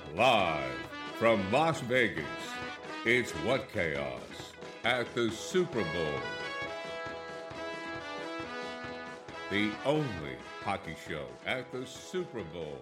Live from Las Vegas, it's What Chaos at the Super Bowl. The only hockey show at the Super Bowl.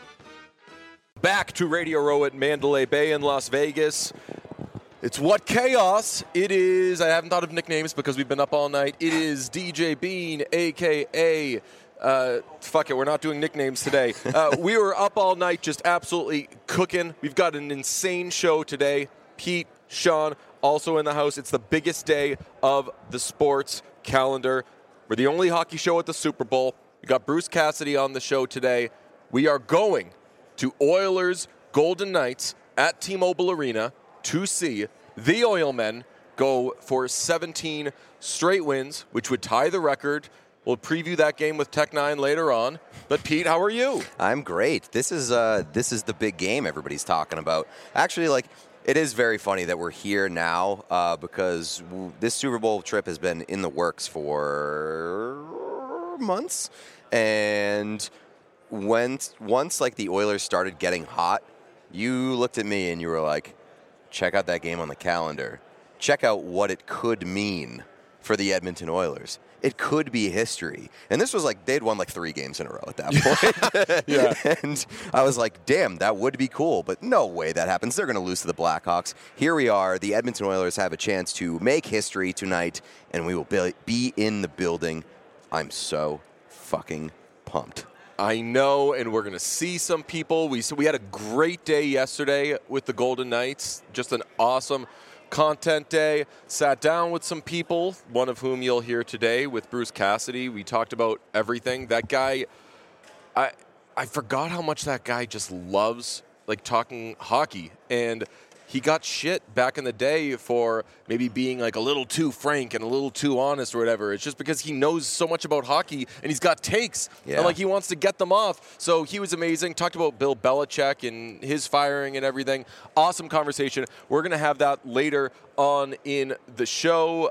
Back to Radio Row at Mandalay Bay in Las Vegas. It's What Chaos. It is, I haven't thought of nicknames because we've been up all night. It is DJ Bean, a.k.a. Fuck it, we're not doing nicknames today. We were up all night just absolutely cooking. We've got an insane show today. Pete, Sean, also in the house. It's the biggest day of the sports calendar. We're the only hockey show at the Super Bowl. We got Bruce Cassidy on the show today. We are going to Oilers Golden Knights at T-Mobile Arena to see the Oilmen go for 17 straight wins, which would tie the record. We'll preview that game with Tech 9 later on. But Pete, how are you? I'm great. This is the big game everybody's talking about. Actually, it is very funny that we're here now because this Super Bowl trip has been in the works for months. And once the Oilers started getting hot, you looked at me and you were like, check out that game on the calendar. Check out what it could mean for the Edmonton Oilers. It could be history. And this was they'd won 3 games in a row at that point. Yeah. And I was like, damn, that would be cool. But no way that happens. They're going to lose to the Blackhawks. Here we are. The Edmonton Oilers have a chance to make history tonight, and we will be in the building. I'm so fucking pumped. I know, and we're going to see some people. We had a great day yesterday with the Golden Knights. Just an awesome content day. Sat down with some people, one of whom you'll hear today with Bruce Cassidy. We talked about everything. That guy, I forgot how much that guy just loves talking hockey. And he got shit back in the day for maybe being a little too frank and a little too honest or whatever. It's just because he knows so much about hockey and he's got takes and he wants to get them off. So he was amazing. Talked about Bill Belichick and his firing and everything. Awesome conversation. We're going to have that later on in the show.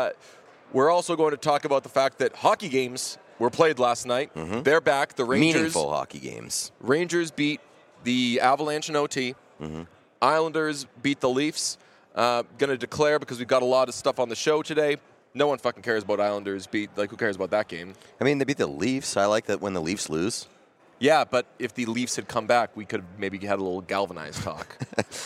We're also going to talk about the fact that hockey games were played last night. Mm-hmm. They're back. The Rangers. Meaningful hockey games. Rangers beat the Avalanche in OT. Mm-hmm. Islanders beat the Leafs. Going to declare because we've got a lot of stuff on the show today. No one fucking cares about Islanders beat. Who cares about that game? I mean, they beat the Leafs. I like that when the Leafs lose. Yeah, but if the Leafs had come back, we could have maybe had a little galvanized talk.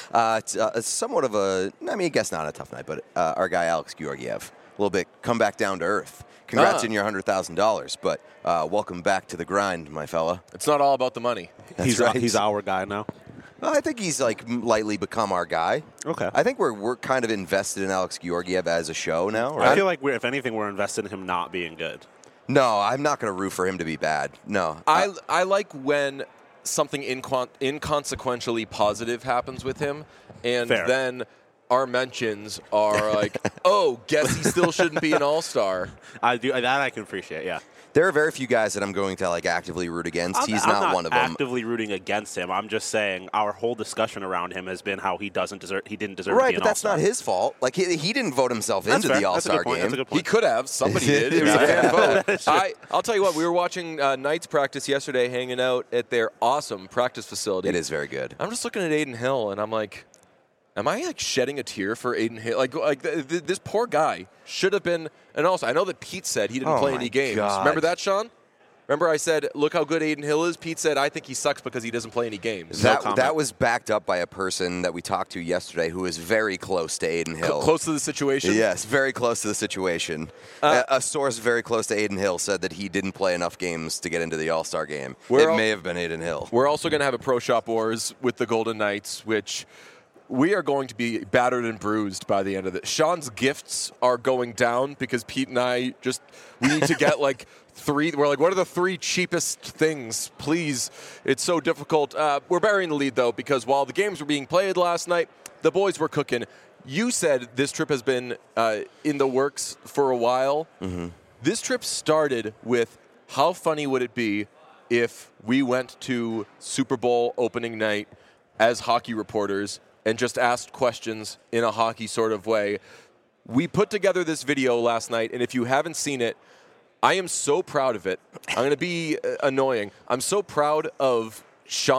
It's somewhat of I guess not a tough night, but our guy Alex Georgiev, a little bit come back down to earth. Congrats on your $100,000, but welcome back to the grind, my fella. It's not all about the money. He's our guy now. I think he's lightly become our guy. Okay. I think we're kind of invested in Alex Georgiev as a show now, right? I feel like if anything, we're invested in him not being good. No, I'm not going to root for him to be bad. No. I like when something inconsequentially positive happens with him, and then our mentions are guess he still shouldn't be an all-star. I do that. I can appreciate. Yeah. There are very few guys that I'm going to actively root against. He's not one of them. I'm not actively rooting against him. I'm just saying our whole discussion around him has been how he didn't deserve to be an all-star. Right, but that's not his fault. He didn't vote himself into the all-star game. He could have. Somebody did. It was a fan vote. I'll tell you what. We were watching Knights practice yesterday, hanging out at their awesome practice facility. It is very good. I'm just looking at Adin Hill, and I'm like, am I shedding a tear for Adin Hill? This poor guy should have been. And also, I know that Pete said he didn't play any games. God. Remember that, Sean? Remember I said, look how good Adin Hill is? Pete said, I think he sucks because he doesn't play any games. That was backed up by a person that we talked to yesterday who is very close to Adin Hill. Close to the situation? Yes, very close to the situation. A source very close to Adin Hill said that he didn't play enough games to get into the All-Star game. It may have been Adin Hill. We're also going to have a Pro Shop Wars with the Golden Knights, which we are going to be battered and bruised by the end of it. Sean's gifts are going down because Pete and I we need to get 3. We're what are the 3 cheapest things? Please. It's so difficult. We're burying the lead, though, because while the games were being played last night, the boys were cooking. You said this trip has been in the works for a while. Mm-hmm. This trip started with how funny would it be if we went to Super Bowl opening night as hockey reporters and just asked questions in a hockey sort of way. We put together this video last night, and if you haven't seen it, I am so proud of it. I'm going to be annoying. I'm so proud of Sean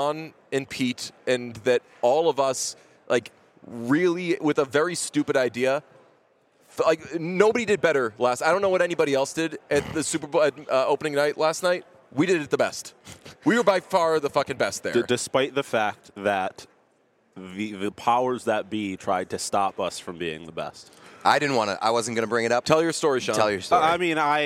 and Pete, and that all of us, like, really, with a very stupid idea, like, nobody did better last. I don't know what anybody else did at the Super Bowl opening night last night. We did it the best. We were by far the fucking best there. Despite the fact that the powers that be tried to stop us from being the best. I wasn't going to bring it up. Tell your story, Sean. Tell your story. I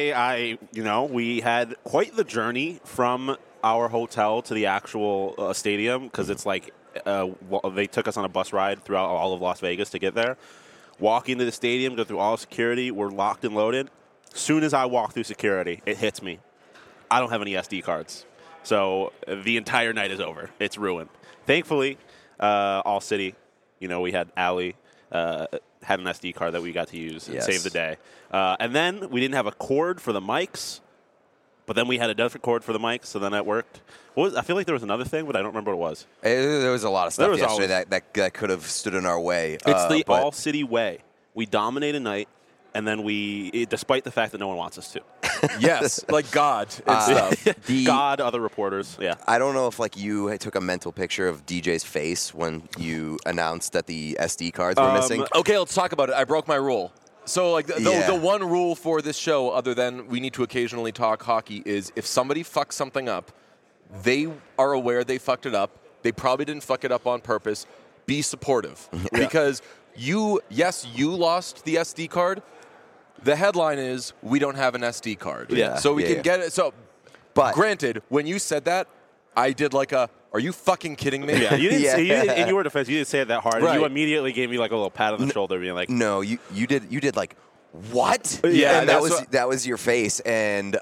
mean, we had quite the journey from our hotel to the actual stadium because it's like they took us on a bus ride throughout all of Las Vegas to get there. Walking to the stadium, go through all security, we're locked and loaded. Soon as I walk through security, it hits me. I don't have any SD cards. So the entire night is over. It's ruined. Thankfully, All City, we had Allie, had an SD card that we got to use and save the day. And then we didn't have a cord for the mics, but then we had a different cord for the mics, so then that worked. I feel like there was another thing, but I don't remember what it was. There was a lot of stuff yesterday that could have stood in our way. It's the All City way. We dominate a night, and then despite the fact that no one wants us to. Yes, like God and stuff. God, other reporters, yeah. I don't know if you took a mental picture of DJ's face when you announced that the SD cards were missing. Okay, let's talk about it. I broke my rule. So, like, the one rule for this show, other than we need to occasionally talk hockey, is if somebody fucks something up, they are aware they fucked it up. They probably didn't fuck it up on purpose. Be supportive. Because you lost the SD card. The headline is, we don't have an SD card. Yeah. So we can get it. So, but granted, when you said that, I did are you fucking kidding me? Yeah, you didn't in your defense, you didn't say it that hard. Right. You immediately gave me like a little pat on the shoulder, being like, "No, you did like what?" Yeah, and that was your face, and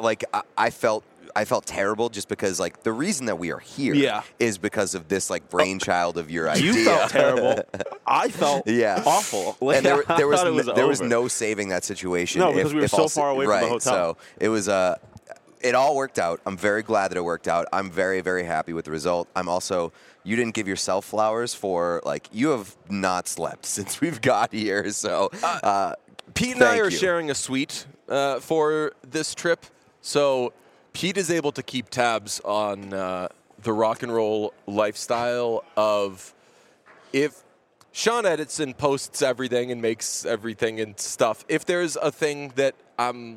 I felt terrible just because the reason that we are here is because of this brainchild of your idea. You felt terrible. I felt awful. And there was no saving that situation. No, because we were so far away from the hotel. So it was it all worked out. I'm very glad that it worked out. I'm very, very happy with the result. I'm also, you didn't give yourself flowers for, you have not slept since we've got here. So Pete and I are sharing a suite for this trip. So Pete is able to keep tabs on the rock and roll lifestyle of if Sean edits and posts everything and makes everything and stuff. If there's a thing that I'm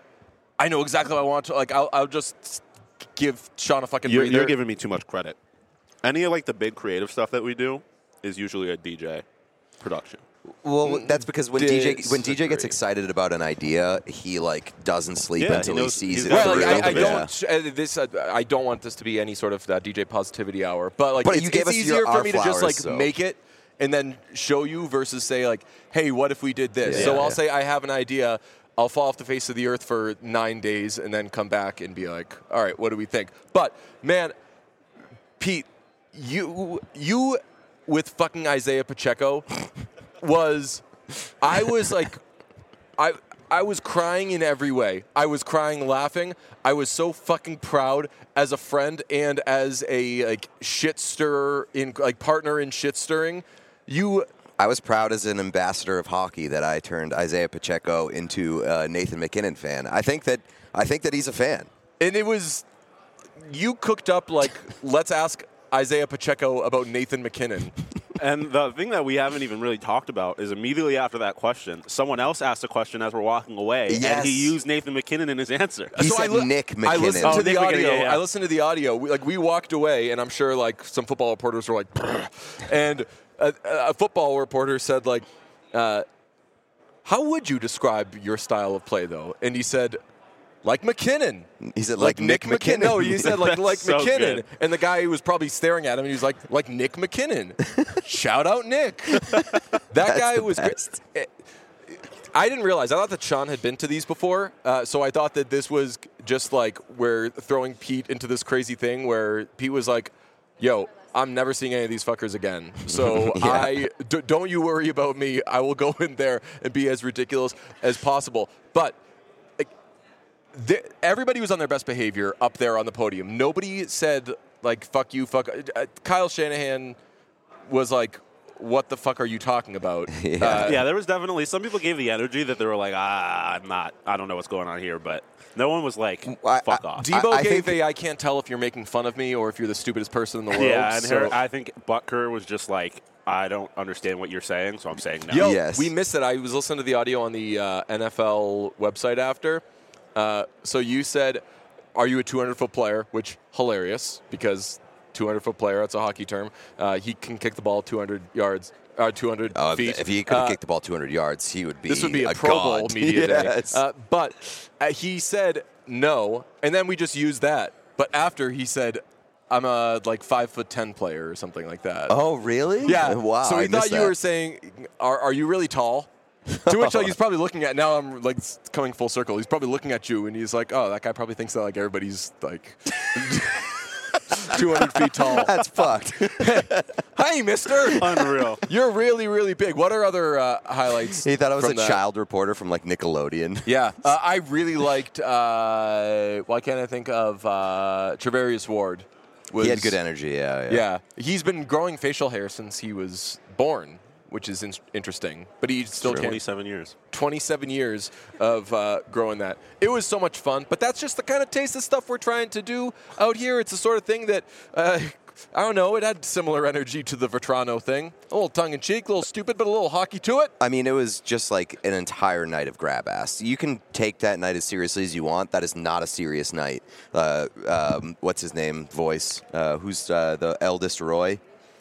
I know exactly what I want to. I'll just give Sean a fucking breather. You're giving me too much credit. Any of the big creative stuff that we do is usually a DJ production. Well, that's because when DJ gets excited about an idea, he doesn't sleep until he sees it. Well, I don't want this to be any sort of DJ positivity hour, but it's easier for me to just make it and then show you versus say hey, what if we did this? Yeah, so I'll say I have an idea. I'll fall off the face of the earth for 9 days and then come back and be like, all right, what do we think? But, man, Pete, you with fucking Isaiah Pacheco I was crying in every way. I was crying laughing. I was so fucking proud as a friend and as a shit stirrer partner in shit stirring. I was proud as an ambassador of hockey that I turned Isaiah Pacheco into a Nathan MacKinnon fan. I think that he's a fan. And it was you cooked up let's ask Isaiah Pacheco about Nathan MacKinnon. And the thing that we haven't even really talked about is immediately after that question, someone else asked a question as we're walking away, and he used Nathan MacKinnon in his answer. He said Nick MacKinnon. I listened to the audio. I listened to the audio. We walked away, and I'm sure some football reporters were and a football reporter said how would you describe your style of play though? And he said, like MacKinnon. He said, like Nick MacKinnon. No, he said, like so MacKinnon. Good. And the guy was probably staring at him, and he was like Nick MacKinnon. Shout out Nick. That guy was great. I didn't realize. I thought that Sean had been to these before, so I thought that this was just we're throwing Pete into this crazy thing where Pete was like, yo, I'm never seeing any of these fuckers again. So don't you worry about me. I will go in there and be as ridiculous as possible. But everybody was on their best behavior up there on the podium. Nobody said fuck you, fuck. Kyle Shanahan was what the fuck are you talking about? Yeah, there was definitely some people gave the energy that they were like, I don't know what's going on here, but no one was like, fuck off. Debo I gave think- I can't tell if you're making fun of me or if you're the stupidest person in the world. Yeah, and so. I think Butker was just like, I don't understand what you're saying, so I'm saying no. Yo, Yes. we missed it. I was listening to the audio on the NFL website after. So you said, are you a 200-foot player? Which, hilarious, because 200-foot player, that's a hockey term. He can kick the ball 200 yards, 200 feet. If he could have kicked the ball 200 yards, he would be This would be a Pro god. Bowl media Yes. day. But he said no, and then we just used that. But after he said, I'm a like 5'10" player or something like that. Oh, really? Yeah. Wow. So I we thought missed you that. were saying, are you really tall? To which he's probably looking at, now I'm like coming full circle. He's probably looking at you and he's like, oh, that guy probably thinks that like everybody's like 200 feet tall. That's fucked. Hey, mister. Unreal. You're really, really big. What are other highlights? He thought I was from a that? child reporter from like Nickelodeon. Yeah. I really liked, why can't I think of Trevarius Ward? He had good energy. Yeah. Yeah. He's been growing facial hair since he was born, which is interesting. But he still can't. 27 years. 27 years of growing that. It was so much fun, but that's just the kind of taste of stuff we're trying to do out here. It's the sort of thing that, I don't know, it had similar energy to the Vetrano thing. A little tongue-in-cheek, a little stupid, but a little hockey to it. I mean, it was just like an entire night of grab ass. You can take that night as seriously as you want. That is not a serious night. What's his name? Voice. Who's the eldest Roy?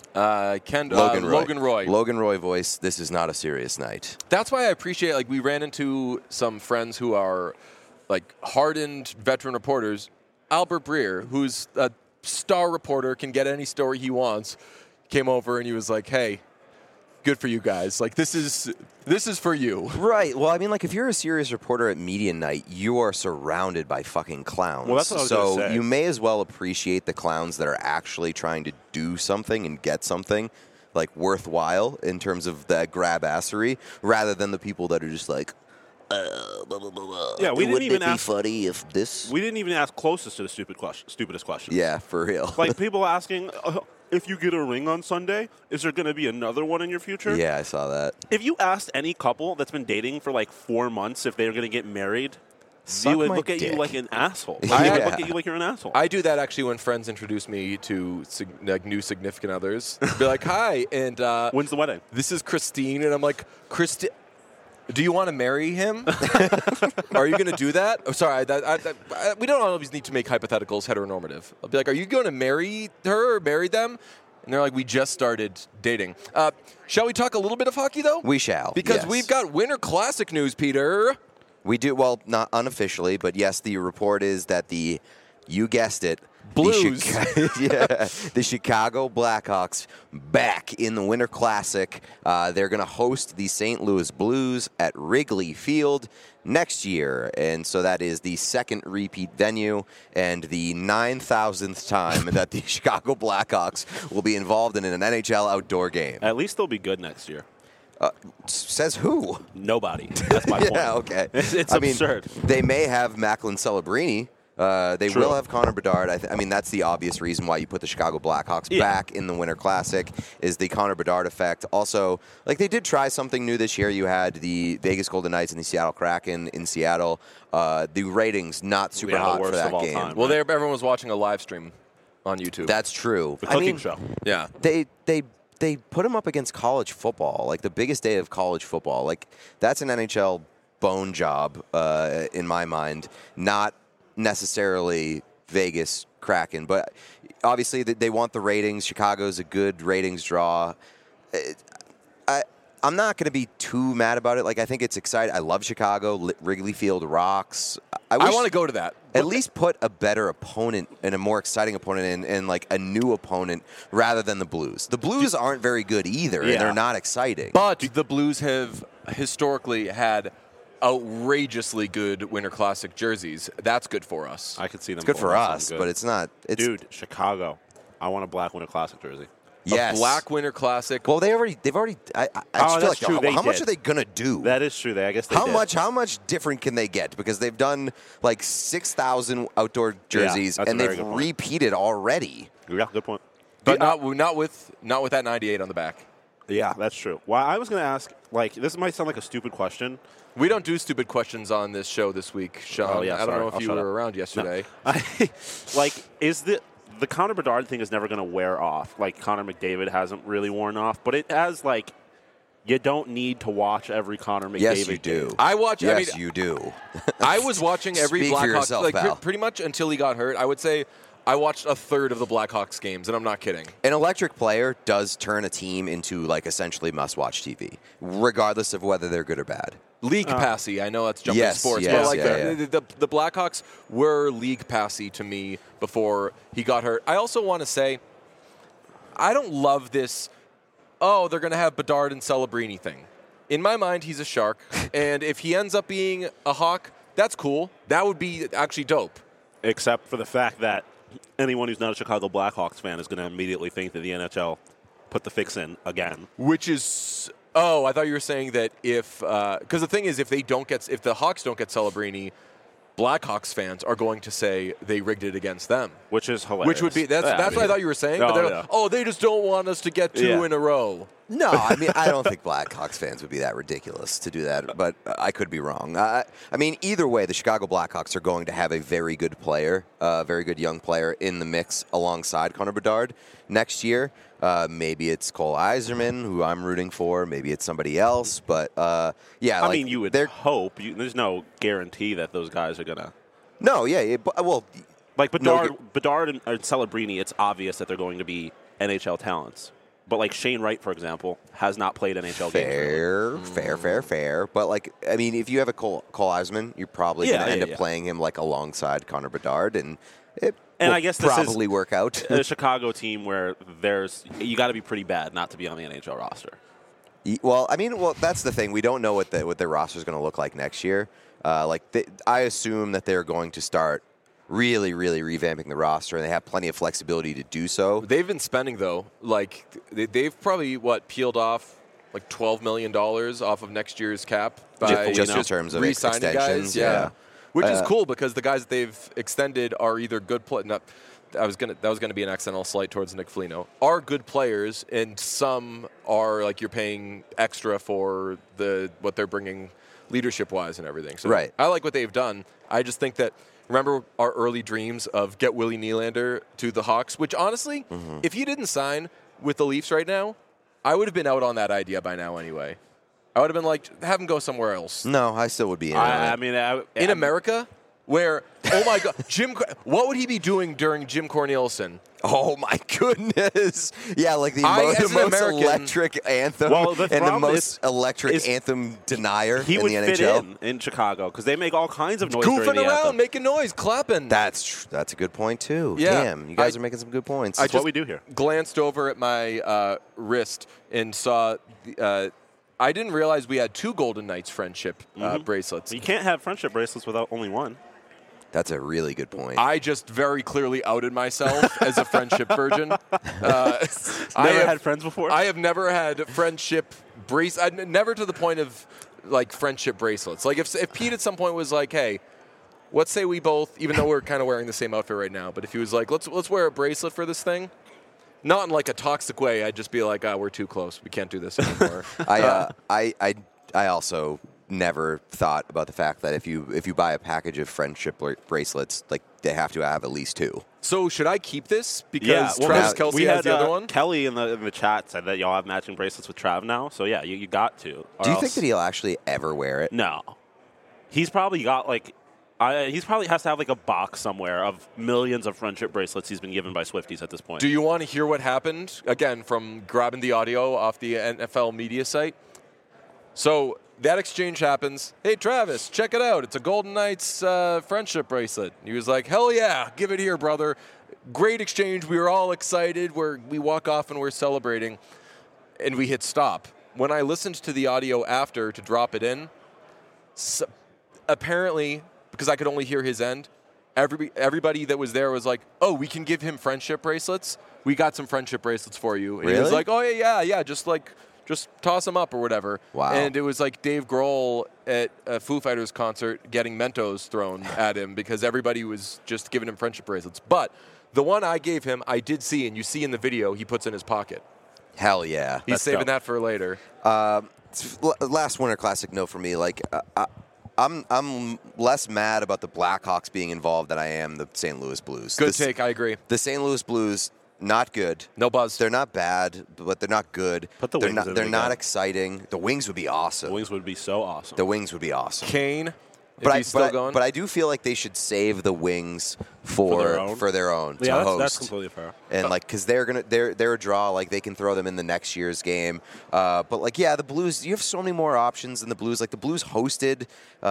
Logan Roy. Logan Roy voice. This is not a serious night. That's why I appreciate, like, we ran into some friends who are, like, hardened veteran reporters. Albert Breer, who's a star reporter, can get any story he wants, came over and he was like, hey, good for you guys. Like, this is for you. Right. Well, I mean, like, if you're a serious reporter at media night, you are surrounded by fucking clowns. Well, that's what I was so gonna say. you may as well appreciate the clowns that are actually trying to do something and get something, like, worthwhile in terms of that grab-assery, rather than the people that are just like, blah, blah, blah. Yeah, we didn't Wouldn't even it be ask- funny if this... We didn't even ask closest to the stupidest question. Yeah, for real. Like people asking, if you get a ring on Sunday, is there going to be another one in your future? Yeah, I saw that. If you asked any couple that's been dating for like 4 months if they're going to get married, Suck they would my look at you dick. like an asshole. Yeah. They would look at you like you're an asshole. I do that actually when friends introduce me to like new significant others. Be like, hi, and When's the wedding? this is Christine, and I'm like, Christine, do you want to marry him? Are you going to do that? Oh, sorry, we don't always need to make hypotheticals heteronormative. I'll be like, are you going to marry her or marry them? And they're like, we just started dating. Shall we talk a little bit of hockey, though? We shall, Because yes. we've got Winter Classic news, Peter. We do, well, not unofficially, but yes, the report is that you guessed it, Blues. the Chicago Blackhawks back in the Winter Classic. They're going to host the St. Louis Blues at Wrigley Field next year. And so that is the second repeat venue and the 9,000th time that the Chicago Blackhawks will be involved in an NHL outdoor game. At least they'll be good next year. Says who? Nobody. That's my point. Yeah, okay. It's I mean, absurd. they may have Macklin Celebrini. They True. will have Connor Bedard. I mean, that's the obvious reason why you put the Chicago Blackhawks back in the Winter Classic is the Connor Bedard effect. Also, like they did try something new this year. You had the Vegas Golden Knights and the Seattle Kraken in Seattle. The ratings not super Yeah, the hot for worst that of all game. time. Well, everyone was watching a live stream on YouTube. That's true. The I cooking mean, show. yeah. They put him up against college football, like the biggest day of college football. Like that's an NHL bone job in my mind, not necessarily Vegas Kraken, but obviously they want the ratings. Chicago's a good ratings draw. I'm not going to be too mad about it. Like I think it's exciting. I love Chicago. Wrigley Field rocks. I want to go to that. At least put a better opponent and a more exciting opponent in, and like a new opponent rather than the Blues. The Blues aren't very good either, and Yeah. they're not exciting. But the Blues have historically had outrageously good Winter Classic jerseys. That's good for us. I could see them. It's good pulling for off us, something but good. it's not. It's, Dude, Chicago. I want a black Winter Classic jersey. yes. A black Winter Classic. Well, they've already. I just feel that's like true, they how much did. are they gonna do? That is true. I guess they how did. much different can they get? Because they've done like 6,000 outdoor jerseys, that's a and very they've good point. repeated already. Yeah, good point. but not with that 98 on the back. Yeah, that's true. Well, I was going to ask, like, this might sound like a stupid question. We don't do stupid questions on this show this week, Sean. Oh, yeah, I don't sorry. know if I'll you shut were up. around yesterday. Like, is the Connor Bedard thing is never going to wear off? Like, Connor McDavid hasn't really worn off, but it has, like, you don't need to watch every Connor McDavid Yes, you do. game. I watch. Yes, I mean, you do. I was watching every Speak for Blackhawks yourself, like pal. pretty much until he got hurt. I would say I watched a third of the Blackhawks games, and I'm not kidding. An electric player does turn a team into like essentially must-watch TV, regardless of whether they're good or bad. League passy. I know that's jumping Yes, sports, yes, but like yeah. the Blackhawks were league passy to me before he got hurt. I also want to say I don't love this. Oh, they're going to have Bedard and Celebrini thing. In my mind, he's a Shark, and if he ends up being a Hawk, that's cool. That would be actually dope. Except for the fact that anyone who's not a Chicago Blackhawks fan is going to immediately think that the NHL put the fix in again. Which is, oh, I thought you were saying that if, because the thing is, if the Hawks don't get Celebrini, Blackhawks fans are going to say they rigged it against them. Which is hilarious. Which would be, that's what I thought you were saying. But Oh, they're yeah. like, oh, they just don't want us to get two Yeah. in a row. No, I mean, I don't think Blackhawks fans would be that ridiculous to do that, but I could be wrong. I mean, either way, the Chicago Blackhawks are going to have a very good player, a very good young player in the mix alongside Connor Bedard next year. Maybe it's Cole Eiserman, who I'm rooting for. Maybe it's somebody else, but yeah. I like, mean, you would hope. There's no guarantee that those guys are going to. No, yeah, well, Like No, Bedard and Celebrini, it's obvious that they're going to be NHL talents. But like Shane Wright, for example, has not played NHL games. fair. But like, I mean, if you have a Cole Eiserman, you're probably going to end up yeah. playing him like alongside Connor Bedard, and it And will I guess this probably is work out. a Chicago team where you got to be pretty bad not to be on the NHL roster. Well, I mean, that's the thing. We don't know what their roster is going to look like next year. I assume that they're going to start really, really revamping the roster, and they have plenty of flexibility to do so. They've been spending, though, like, they've probably, peeled off like $12 million off of next year's cap by Just in terms of re-signing extensions, guys. yeah. Which is cool because the guys that they've extended are either good players. That was gonna be an accidental slight towards Nick Foligno. Are good players, and some are like you're paying extra for what they're bringing leadership wise and everything. So Right. I like what they've done. I just think that. Remember our early dreams of get Willie Nylander to the Hawks, which honestly, if he didn't sign with the Leafs right now, I would have been out on that idea by now anyway. I would have been like, have him go somewhere else. No, I still would be in on I it. mean, In America, where, oh my God, what would he be doing during Jim Cornelison? Oh my goodness! Yeah, like the as most an American- electric anthem Well, the and the problem most electric is anthem denier he in would the fit NHL. in Chicago because they make all kinds of noise during Goofing the around, anthem. making noise, clapping. That's a good point too. Yeah. Damn, you guys I- are making some good points. I That's what just we do here. glanced over at my wrist and saw. I didn't realize we had two Golden Knights friendship bracelets. You can't have friendship bracelets without only one. That's a really good point. I just very clearly outed myself as a friendship virgin. Never had friends before? I have never had friendship never to the point of like friendship bracelets. Like if Pete at some point was like, "Hey, let's say we both," even though we're kind of wearing the same outfit right now, but if he was like, "Let's wear a bracelet for this thing," not in like a toxic way, I'd just be like, "We're too close. We can't do this anymore." I also never thought about the fact that if you buy a package of friendship bracelets, like they have to have at least two. So should I keep this because well, Travis now- Kelce we has had the other one? Kelly in the chat said that y'all have matching bracelets with Trav now. So yeah, you got to. Or Do you else- think that he'll actually ever wear it? No, he's probably got like. He's probably has to have like a box somewhere of millions of friendship bracelets he's been given by Swifties at this point. Do you want to hear what happened? Again, from grabbing the audio off the NFL media site. So that exchange happens. Hey, Travis, check it out. It's a Golden Knights friendship bracelet. He was like, hell yeah, give it here, brother. Great exchange. We were all excited. We walk off and we're celebrating. And we hit stop. When I listened to the audio after to drop it in, apparently, because I could only hear his end, everybody that was there was like, oh, we can give him friendship bracelets. We got some friendship bracelets for you. And he was Really? like, oh, yeah, just toss them up or whatever. Wow. And it was like Dave Grohl at a Foo Fighters concert getting Mentos thrown at him because everybody was just giving him friendship bracelets. But the one I gave him, I did see, and you see in the video, he puts in his pocket. Hell yeah. He's That's saving dope. that for later. Last Winter Classic, no for me. Like, I'm less mad about the Blackhawks being involved than I am the St. Louis Blues. Good take. I agree. The St. Louis Blues, not good. No buzz. They're not bad, but they're not good. Put the they're Wings not, in They're again. not exciting. The Wings would be awesome. The Wings would be so awesome. The Wings would be awesome. Kane, if he's still going. But I do feel like they should save the Wings for their own Yeah, to host. that's completely fair. And like, because they're a draw. Like they can throw them in the next year's game. But like, yeah, the Blues. You have so many more options than the Blues. Like the Blues hosted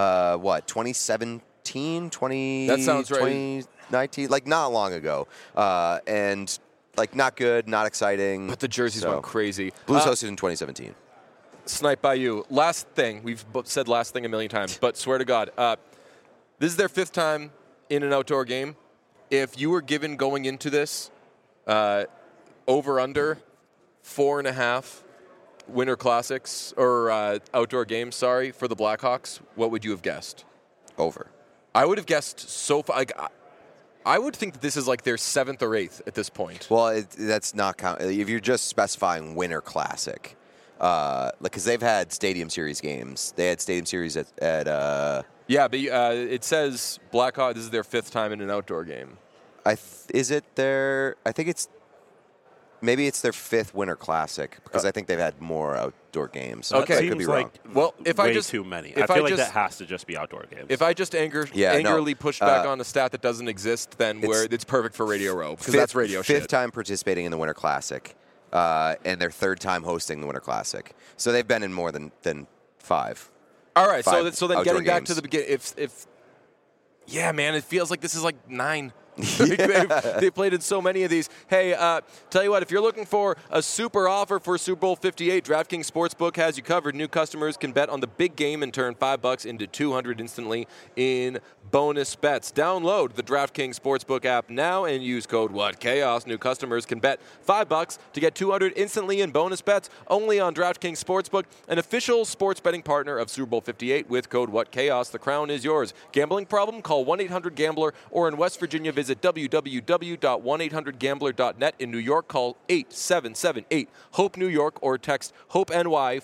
2017, 20. That sounds right. 2019, like not long ago. And like not good, not exciting. But the jerseys went crazy. Blues hosted in 2017. Snipe by you. Last thing. We've said last thing a million times, but swear to God, this is their 5th time in an outdoor game. If you were given going into this over/under 4.5 Winter Classics or outdoor games, for the Blackhawks, what would you have guessed? Over. I would have guessed so far. Like, I would think that this is like their 7th or 8th at this point. Well, that's not count. If you're just specifying Winter Classic, because they've had Stadium Series games. They had Stadium Series at Yeah, but it says Blackhawks. This is their 5th time in an outdoor game. is it their? I think it's maybe it's their 5th Winter Classic because I think they've had more outdoor games. Okay. I could be wrong. Well, if way I just too many. if I feel I like just- that has to just be outdoor games. If I just angrily push back on a stat that doesn't exist, then it's perfect for Radio Row because that's radio Fifth shit. time participating in the Winter Classic, and their 3rd time hosting the Winter Classic. So they've been in more than 5. All right, so 5 then getting outdoor back to games. the beginning, if yeah, man, it feels like this is like 9. They've played in so many of these. Hey, tell you what, if you're looking for a super offer for Super Bowl 58, DraftKings Sportsbook has you covered. New customers can bet on the big game and turn $5 into $200 instantly in bonus bets. Download the DraftKings Sportsbook app now and use code WhatChaos. New customers can bet $5 to get $200 instantly in bonus bets only on DraftKings Sportsbook, an official sports betting partner of Super Bowl 58 with code WhatChaos. The crown is yours. Gambling problem? Call 1-800-GAMBLER or in West Virginia, visit www.1800gambler.net. In New York, call 8778-HOPE-NEW YORK or text HOPE-NY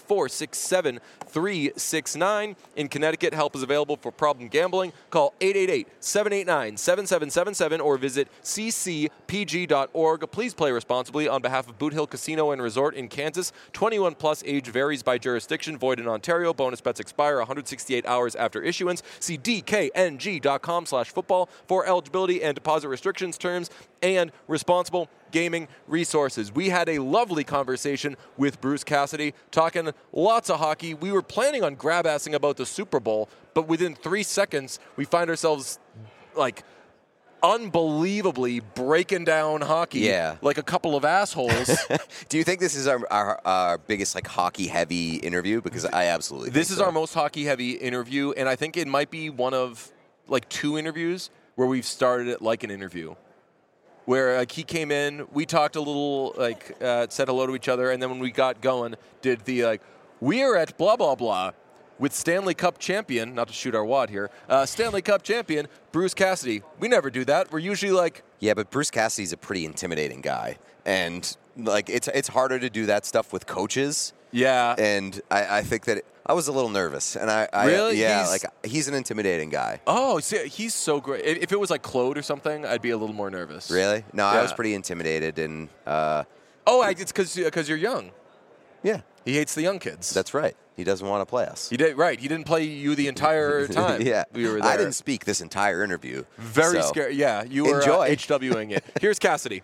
467-369. In Connecticut, help is available for problem gambling. Call 888-789-7777 or visit ccpg.org. Please play responsibly on behalf of Boot Hill Casino and Resort in Kansas. 21 plus, age varies by jurisdiction, void in Ontario. Bonus bets expire 168 hours after issuance. See dkng.com/football for eligibility and deposit restrictions, terms, and responsible gaming resources. We had a lovely conversation with Bruce Cassidy, talking lots of hockey. We were planning on grab-assing about the Super Bowl, but within 3 seconds, we find ourselves like unbelievably breaking down hockey like a couple of assholes. Do you think this is our biggest like hockey heavy interview? Because I absolutely This think is so. our most hockey heavy interview, and I think it might be one of like 2 interviews where we've started it like an interview. Where like he came in, we talked a little, like said hello to each other, and then when we got going, did the like, we are at blah blah blah with Stanley Cup champion, not to shoot our wad here, Stanley Cup champion Bruce Cassidy. We never do that. We're usually like, Yeah, but Bruce Cassidy's a pretty intimidating guy, and like it's harder to do that stuff with coaches. yeah, And I think that I was a little nervous, and I Really? he's an intimidating guy. oh, see, he's so great. If it was like Claude or something, I'd be a little more nervous. Really? No, I was Yeah. pretty intimidated, and It's because you're young. yeah, He hates the young kids. that's right. He doesn't want to play us. He did right. He didn't play you the entire time. Yeah, we were there. I didn't speak this entire interview. Very so. scary. Yeah, you were Enjoy. HWing it. Here's Cassidy.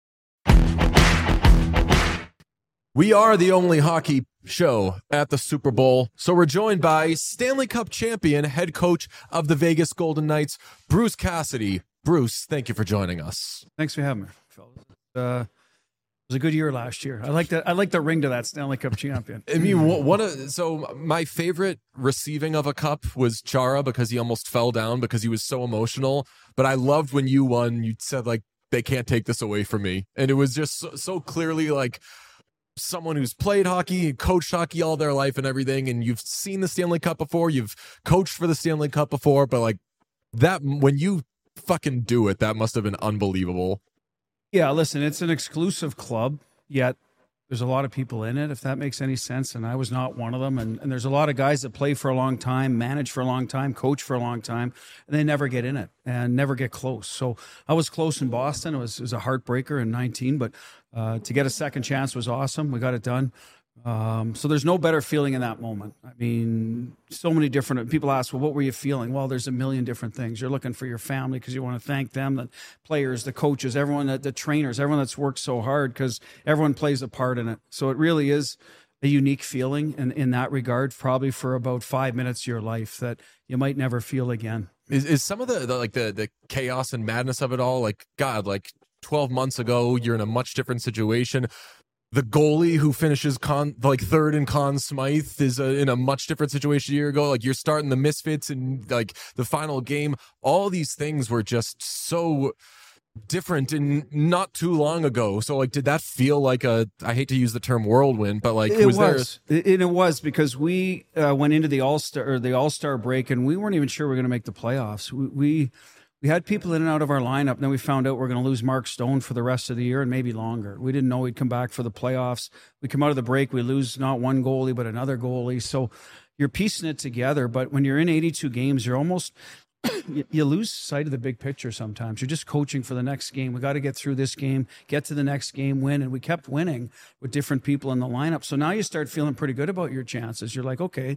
We are the only hockey show at the Super Bowl, so we're joined by Stanley Cup champion, head coach of the Vegas Golden Knights, Bruce Cassidy. Bruce, thank you for joining us. Thanks for having me, fellas. It was a good year last year. I like the ring to that Stanley Cup champion. I mean, so my favorite receiving of a cup was Chara because he almost fell down because he was so emotional. But I loved when you won. You said like, they can't take this away from me, and it was just so clearly like someone who's played hockey, coached hockey all their life and everything, and you've seen the Stanley Cup before, you've coached for the Stanley Cup before, but like that, when you fucking do it, that must have been unbelievable. Yeah, listen, it's an exclusive club, yet there's a lot of people in it, if that makes any sense. And I was not one of them. And there's a lot of guys that play for a long time, manage for a long time, coach for a long time, and they never get in it and never get close. So I was close in Boston. It was a heartbreaker in 19, but to get a second chance was awesome. We got it done. So there's no better feeling in that moment. I mean, so many different people ask, well, what were you feeling? Well, there's a million different things. You're looking for your family because you want to thank them, the players, the coaches, everyone, the trainers, everyone that's worked so hard because everyone plays a part in it. So it really is a unique feeling in that regard, probably for about 5 minutes of your life that you might never feel again. Is some of the chaos and madness of it all, like, God, like 12 months ago, you're in a much different situation. The goalie who finishes third in Conn Smythe is in a much different situation a year ago. Like, you're starting the Misfits and like the final game. All these things were just so different and not too long ago. So like, did that feel like I hate to use the term whirlwind, but like, it was because we went into the All-Star break and we weren't even sure we were going to make the playoffs. We had people in and out of our lineup, and then we found out we're going to lose Mark Stone for the rest of the year and maybe longer. We didn't know he'd come back for the playoffs. We come out of the break, we lose not one goalie, but another goalie. So you're piecing it together, but when you're in 82 games, you're almost you lose sight of the big picture sometimes. You're just coaching for the next game. We got to get through this game, get to the next game, win. And we kept winning with different people in the lineup. So now you start feeling pretty good about your chances. You're like, okay,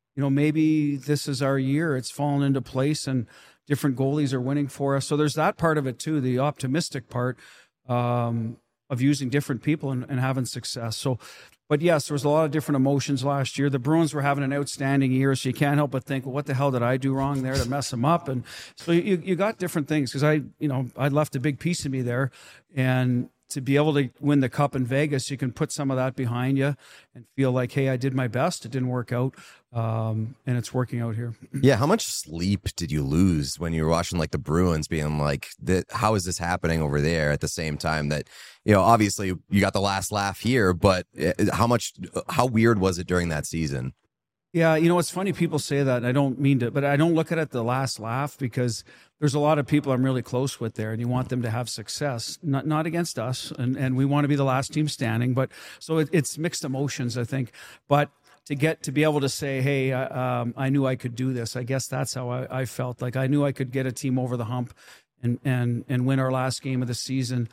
maybe this is our year. It's fallen into place and different goalies are winning for us. So there's that part of it too, the optimistic part of using different people and having success. So, but yes, there was a lot of different emotions last year. The Bruins were having an outstanding year, so you can't help but think, well, what the hell did I do wrong there to mess them up? And so you got different things because I left a big piece of me there, and to be able to win the cup in Vegas, you can put some of that behind you and feel like, hey, I did my best. It didn't work out, and it's working out here. Yeah, how much sleep did you lose when you were watching like the Bruins being like, how is this happening over there at the same time that, obviously you got the last laugh here, but how weird was it during that season? Yeah, it's funny people say that, and I don't mean to, but I don't look at it the last laugh because there's a lot of people I'm really close with there, and you want them to have success, not against us, and we want to be the last team standing. But so it's mixed emotions, I think. But to be able to say, hey, I knew I could do this. I guess that's how I felt. Like I knew I could get a team over the hump and win our last game of the season.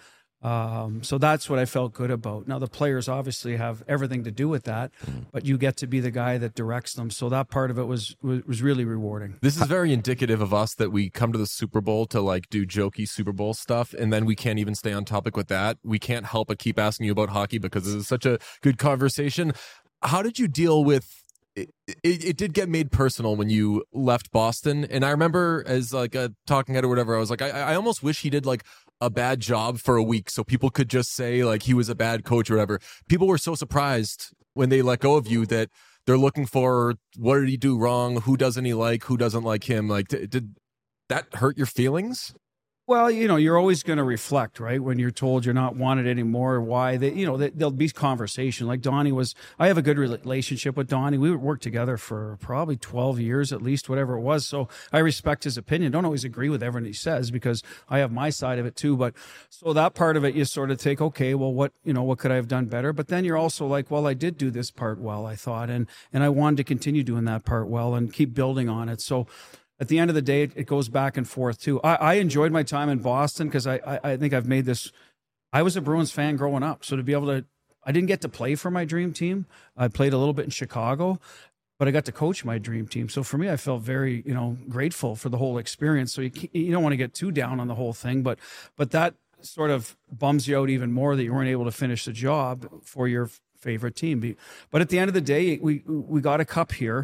So that's what I felt good about. Now the players obviously have everything to do with that, but you get to be the guy that directs them. So that part of it was really rewarding. This is very indicative of us that we come to the Super Bowl to like do jokey Super Bowl stuff, and then we can't even stay on topic with that. We can't help but keep asking you about hockey because this is such a good conversation. How did you deal with it did get made personal when you left Boston, and I remember as like a talking head or whatever, I was like, I almost wish he did like a bad job for a week so people could just say like he was a bad coach or whatever. People were so surprised when they let go of you that they're looking for what did he do wrong, who doesn't he like, who doesn't like him. Like, did that hurt your feelings? Well, you're always going to reflect, right? When you're told you're not wanted anymore, why there'll be conversation. Like Donnie I have a good relationship with Donnie. We would work together for probably 12 years at least, whatever it was. So I respect his opinion. Don't always agree with everything he says because I have my side of it too. But so that part of it, you sort of take, okay, well, what could I have done better? But then you're also like, well, I did do this part well, I thought, and I wanted to continue doing that part well and keep building on it. So at the end of the day, it goes back and forth too. I enjoyed my time in Boston because I think I've made this. I was a Bruins fan growing up, so to be able to, I didn't get to play for my dream team. I played a little bit in Chicago, but I got to coach my dream team. So for me, I felt very grateful for the whole experience. So you don't want to get too down on the whole thing, but that sort of bums you out even more that you weren't able to finish the job for your favorite team. But at the end of the day, we got a cup here.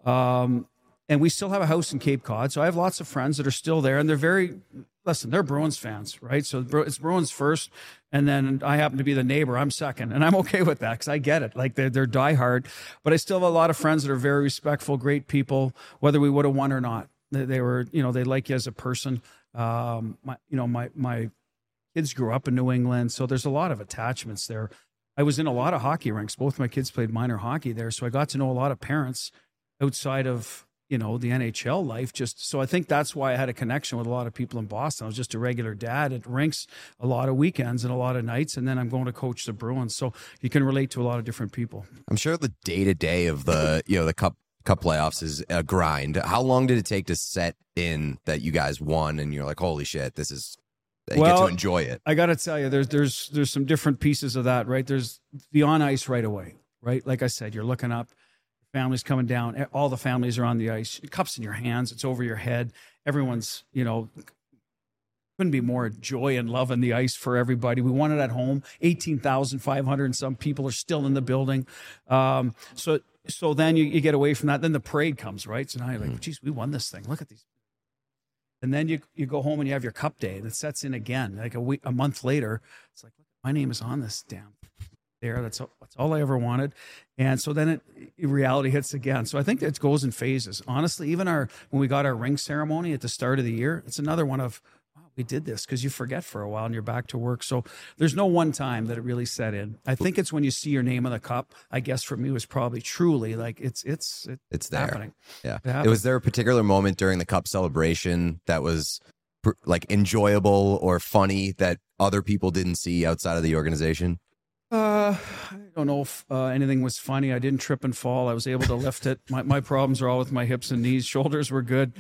And we still have a house in Cape Cod. So I have lots of friends that are still there, and they're Bruins fans, right? So it's Bruins first, and then I happen to be the neighbor. I'm second, and I'm okay with that because I get it. Like they're diehard, but I still have a lot of friends that are very respectful, great people, whether we would have won or not. They were, they like you as a person. My kids grew up in New England, so there's a lot of attachments there. I was in a lot of hockey rinks. Both my kids played minor hockey there, so I got to know a lot of parents outside of the NHL life. Just so I think that's why I had a connection with a lot of people in Boston. I was just a regular dad at rinks a lot of weekends and a lot of nights, and then I'm going to coach the Bruins. So you can relate to a lot of different people. I'm sure the day-to-day of the the cup playoffs is a grind. How long did it take to set in that you guys won and you're like, holy shit, this is, you get to enjoy it? I got to tell you, there's some different pieces of that, right? There's the on ice right away, right? Like I said, you're looking up, families coming down, all the families are on the ice, cups in your hands, it's over your head. Everyone's, couldn't be more joy and love in the ice for everybody. We won it at home. 18,500 and some people are still in the building. So then you get away from that. Then the parade comes, right? So now you're like, geez, we won this thing. Look at these. And then you go home and you have your cup day that sets in again. Like a month later, it's like, my name is on this damn there. That's all I ever wanted. And so then reality hits again. So I think it goes in phases. Honestly, even when we got our ring ceremony at the start of the year, it's another one of, we did this, because you forget for a while and you're back to work. So there's no one time that it really set in. I think it's when you see your name on the cup. I guess for me was probably truly like it's there. Happening. Yeah. Was there a particular moment during the cup celebration that was like enjoyable or funny that other people didn't see outside of the organization? I don't know if anything was funny. I didn't trip and fall. I was able to lift it. My problems are all with my hips and knees. Shoulders were good.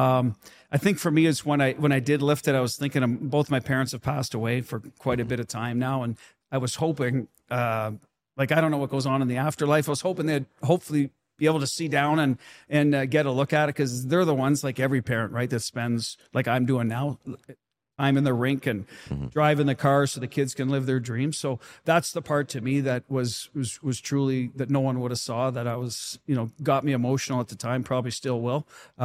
I think for me is when I did lift it, I was thinking both my parents have passed away for quite a bit of time now. And I was hoping, I don't know what goes on in the afterlife. I was hoping they'd hopefully be able to see down and get a look at it, because they're the ones, like every parent, right, that spends, like I'm doing now, time in the rink and driving the car so the kids can live their dreams. So that's the part to me that was truly, that no one would have saw, that I was, got me emotional at the time, probably still will.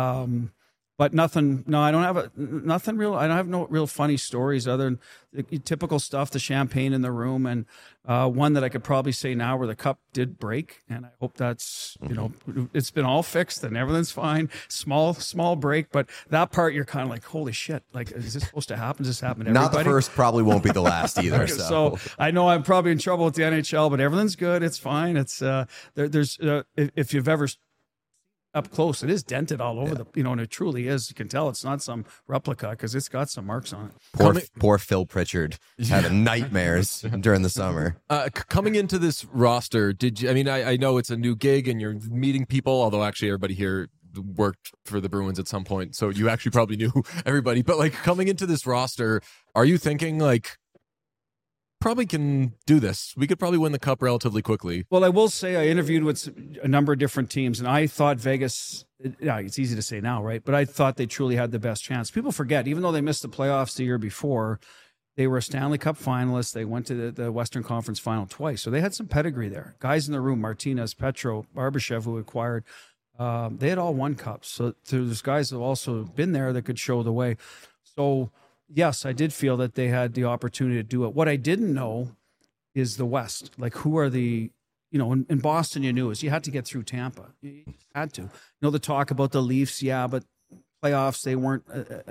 But nothing, no, I don't have nothing real. I don't have no real funny stories other than the typical stuff, the champagne in the room, and one that I could probably say now where the cup did break. And I hope that's, it's been all fixed and everything's fine. Small break. But that part, you're kind of like, holy shit, like, is this supposed to happen? Does this happen to everybody? Not the first, probably won't be the last either. So I know I'm probably in trouble with the NHL, but everything's good. It's fine. It's there's if you've ever up close, it is dented all over and it truly is. You can tell it's not some replica because it's got some marks on it. Poor Phil Pritchard having nightmares during the summer. Coming into this roster, did you? I mean, I know it's a new gig and you're meeting people. Although actually, everybody here worked for the Bruins at some point, so you actually probably knew everybody. But like coming into this roster, are you thinking like, probably can do this? We could probably win the cup relatively quickly. Well, I will say I interviewed with a number of different teams, and I thought Vegas, it's easy to say now, right? But I thought they truly had the best chance. People forget, even though they missed the playoffs the year before, they were a Stanley Cup finalist. They went to the Western Conference final twice. So they had some pedigree there. Guys in the room, Martinez, Petro, Barbashev, who acquired, they had all won cups. So there's guys that have also been there that could show the way. So yes, I did feel that they had the opportunity to do it. What I didn't know is the West. Like, who are the, in Boston, you knew is you had to get through Tampa. You had to. The talk about the Leafs, but playoffs, they weren't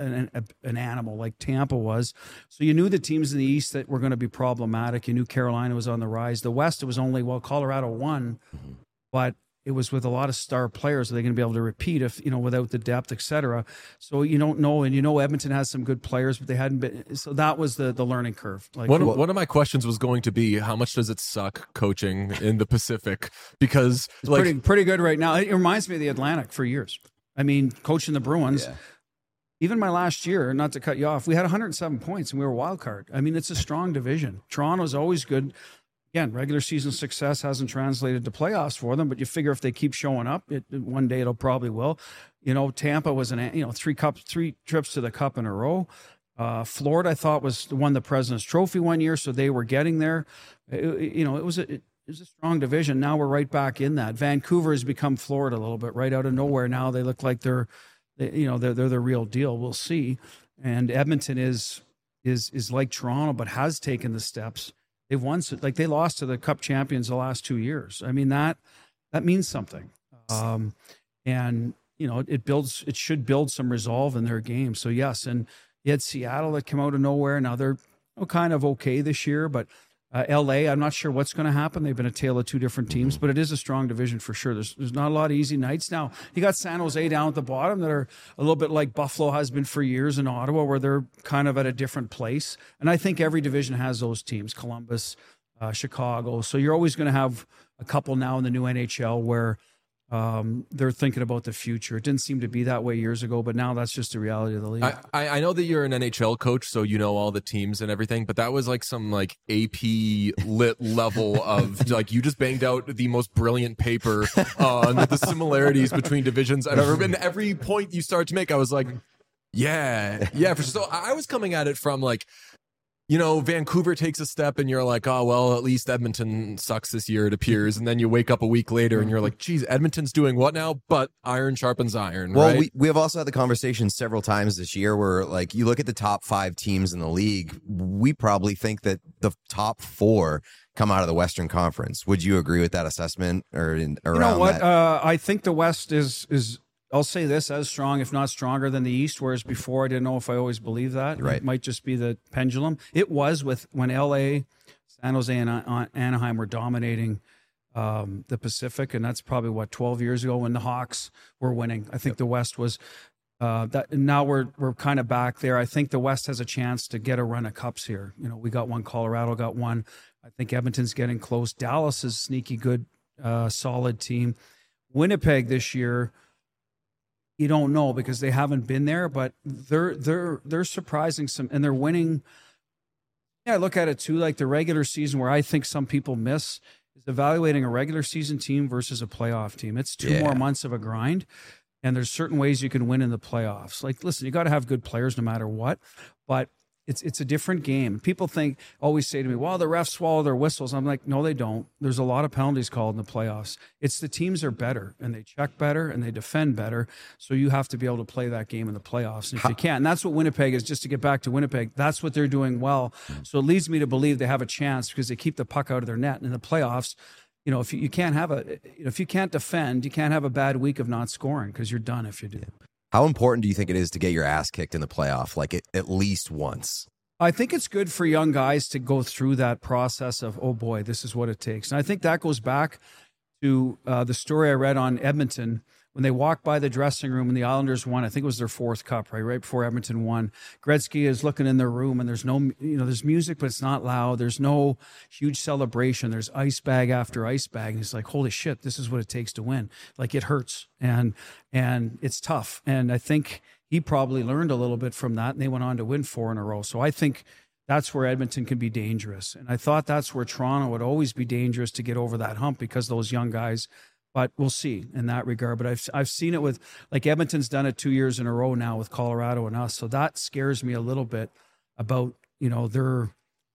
an animal like Tampa was. So you knew the teams in the East that were going to be problematic. You knew Carolina was on the rise. The West, it was only, Colorado won, but it was with a lot of star players. Are they going to be able to repeat if, without the depth, et cetera? So you don't know. And Edmonton has some good players, but they hadn't been. So that was the learning curve. Like, one of my questions was going to be, how much does it suck coaching in the Pacific? Because it's pretty good right now. It reminds me of the Atlantic for years. I mean, coaching the Bruins, even my last year, not to cut you off, we had 107 points and we were a wild card. I mean, it's a strong division. Toronto's always good. Again, regular season success hasn't translated to playoffs for them, but you figure if they keep showing up, one day it'll probably will. Tampa was three trips to the cup in a row. Florida, I thought, won the President's Trophy one year, so they were getting there. It was a strong division. Now we're right back in that. Vancouver has become Florida a little bit, right out of nowhere. Now they look like they're the real deal. We'll see. And Edmonton is like Toronto, but has taken the steps. They've won, like they lost to the Cup champions the last 2 years. I mean, that means something. And it should build some resolve in their game. So yes, and you had Seattle that came out of nowhere. Now they're kind of okay this year, but LA, I'm not sure what's going to happen. They've been a tale of two different teams, but it is a strong division for sure. There's not a lot of easy nights. Now, you got San Jose down at the bottom that are a little bit like Buffalo has been for years in Ottawa, where they're kind of at a different place. And I think every division has those teams, Columbus, Chicago. So you're always going to have a couple now in the new NHL where they're thinking about the future. It didn't seem to be that way years ago, but now that's just the reality of the league. I know that you're an NHL coach, so you know all the teams and everything, but that was like some like AP lit level of like you just banged out the most brilliant paper on the similarities between divisions I've ever been. Every point you start to make, I was like, yeah, for sure. So I was coming at it from like, you know, Vancouver takes a step and you're like, oh, well, at least Edmonton sucks this year, it appears. And then you wake up a week later and you're like, geez, Edmonton's doing what now? But iron sharpens iron, well, right? we have also had the conversation several times this year where, like, you look at the top 5 teams in the league, we probably think that the top 4 come out of the Western Conference. Would you agree with that assessment or around you know what? that? I think the West is I'll say this, as strong, if not stronger than the East, whereas before I didn't know if I always believed that. Right. It might just be the pendulum. It was when LA, San Jose, and Anaheim were dominating the Pacific, and that's probably, 12 years ago when the Hawks were winning. I think the West was that. Now we're kind of back there. I think the West has a chance to get a run of cups here. You know, we got one, Colorado got one. I think Edmonton's getting close. Dallas is sneaky good, solid team. Winnipeg this year, you don't know because they haven't been there, but they're surprising some, and they're winning. Yeah, I look at it too, like the regular season, where I think some people miss is evaluating a regular season team versus a playoff team. It's 2 more months of a grind, and there's certain ways you can win in the playoffs. Like, listen, you got to have good players no matter what, but it's a different game. People always say to me, well, the refs swallow their whistles. I'm like, no, they don't. There's a lot of penalties called in the playoffs. It's the teams are better, and they check better, and they defend better. So you have to be able to play that game in the playoffs. And if you can't, and that's what Winnipeg is, just to get back to Winnipeg, that's what they're doing well. So it leads me to believe they have a chance because they keep the puck out of their net. And in the playoffs, you know, if you can't if you can't defend, you can't have a bad week of not scoring because you're done if you do. How important do you think it is to get your ass kicked in the playoff, like at least once? I think it's good for young guys to go through that process of, oh boy, this is what it takes. And I think that goes back to the story I read on Edmonton when they walked by the dressing room and the Islanders won. I think it was their 4th cup, right before Edmonton won. Gretzky is looking in their room and there's there's music, but it's not loud. There's no huge celebration. There's ice bag after ice bag. And he's like, holy shit, this is what it takes to win. Like, it hurts and it's tough. And I think he probably learned a little bit from that, and they went on to win 4 in a row. So I think that's where Edmonton can be dangerous. And I thought that's where Toronto would always be dangerous to get over that hump because those young guys. But we'll see in that regard. But I've seen it with, like, Edmonton's done it 2 years in a row now with Colorado and us. So that scares me a little bit about, their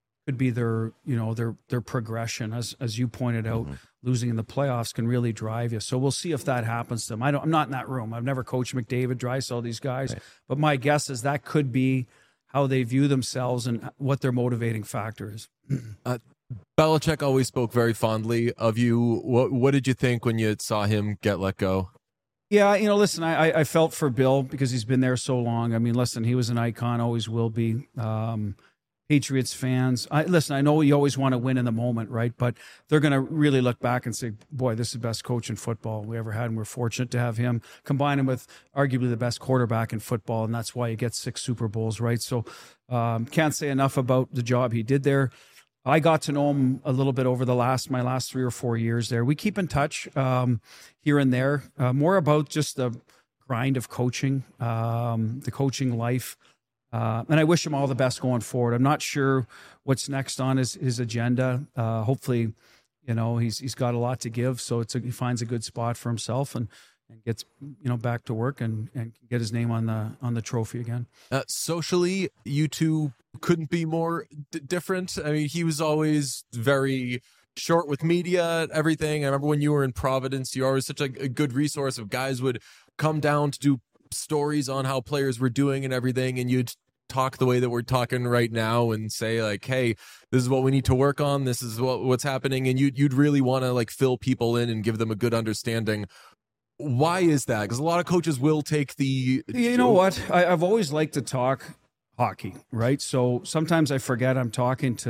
progression. As you pointed out, losing in the playoffs can really drive you. So we'll see if that happens to them. I'm not in that room. I've never coached McDavid, Draisaitl, these guys. Right. But my guess is that could be how they view themselves and what their motivating factor is. Belichick always spoke very fondly of you. What did you think when you saw him get let go? Yeah, listen, I felt for Bill because he's been there so long. I mean, listen, he was an icon, always will be. Patriots fans, I know you always want to win in the moment, right? But they're going to really look back and say, boy, this is the best coach in football we ever had, and we're fortunate to have him. Combine him with arguably the best quarterback in football, and that's why he gets 6 Super Bowls, right? So can't say enough about the job he did there. I got to know him a little bit over my last 3 or 4 years there. We keep in touch here and there, more about just the grind of coaching, the coaching life. And I wish him all the best going forward. I'm not sure what's next on his agenda. Hopefully, he's got a lot to give. So he finds a good spot for himself and gets back to work and get his name on the trophy again. Socially, you two couldn't be more different. I mean, he was always very short with media, everything. I remember when you were in Providence, you were always such a good resource of guys would come down to do stories on how players were doing and everything, and you'd talk the way that we're talking right now and say like, hey, this is what we need to work on, this is what's happening, and you'd really want to like fill people in and give them a good understanding. Why is that? Because a lot of coaches will take the know what, I've always liked to talk hockey, right? So sometimes I forget I'm talking to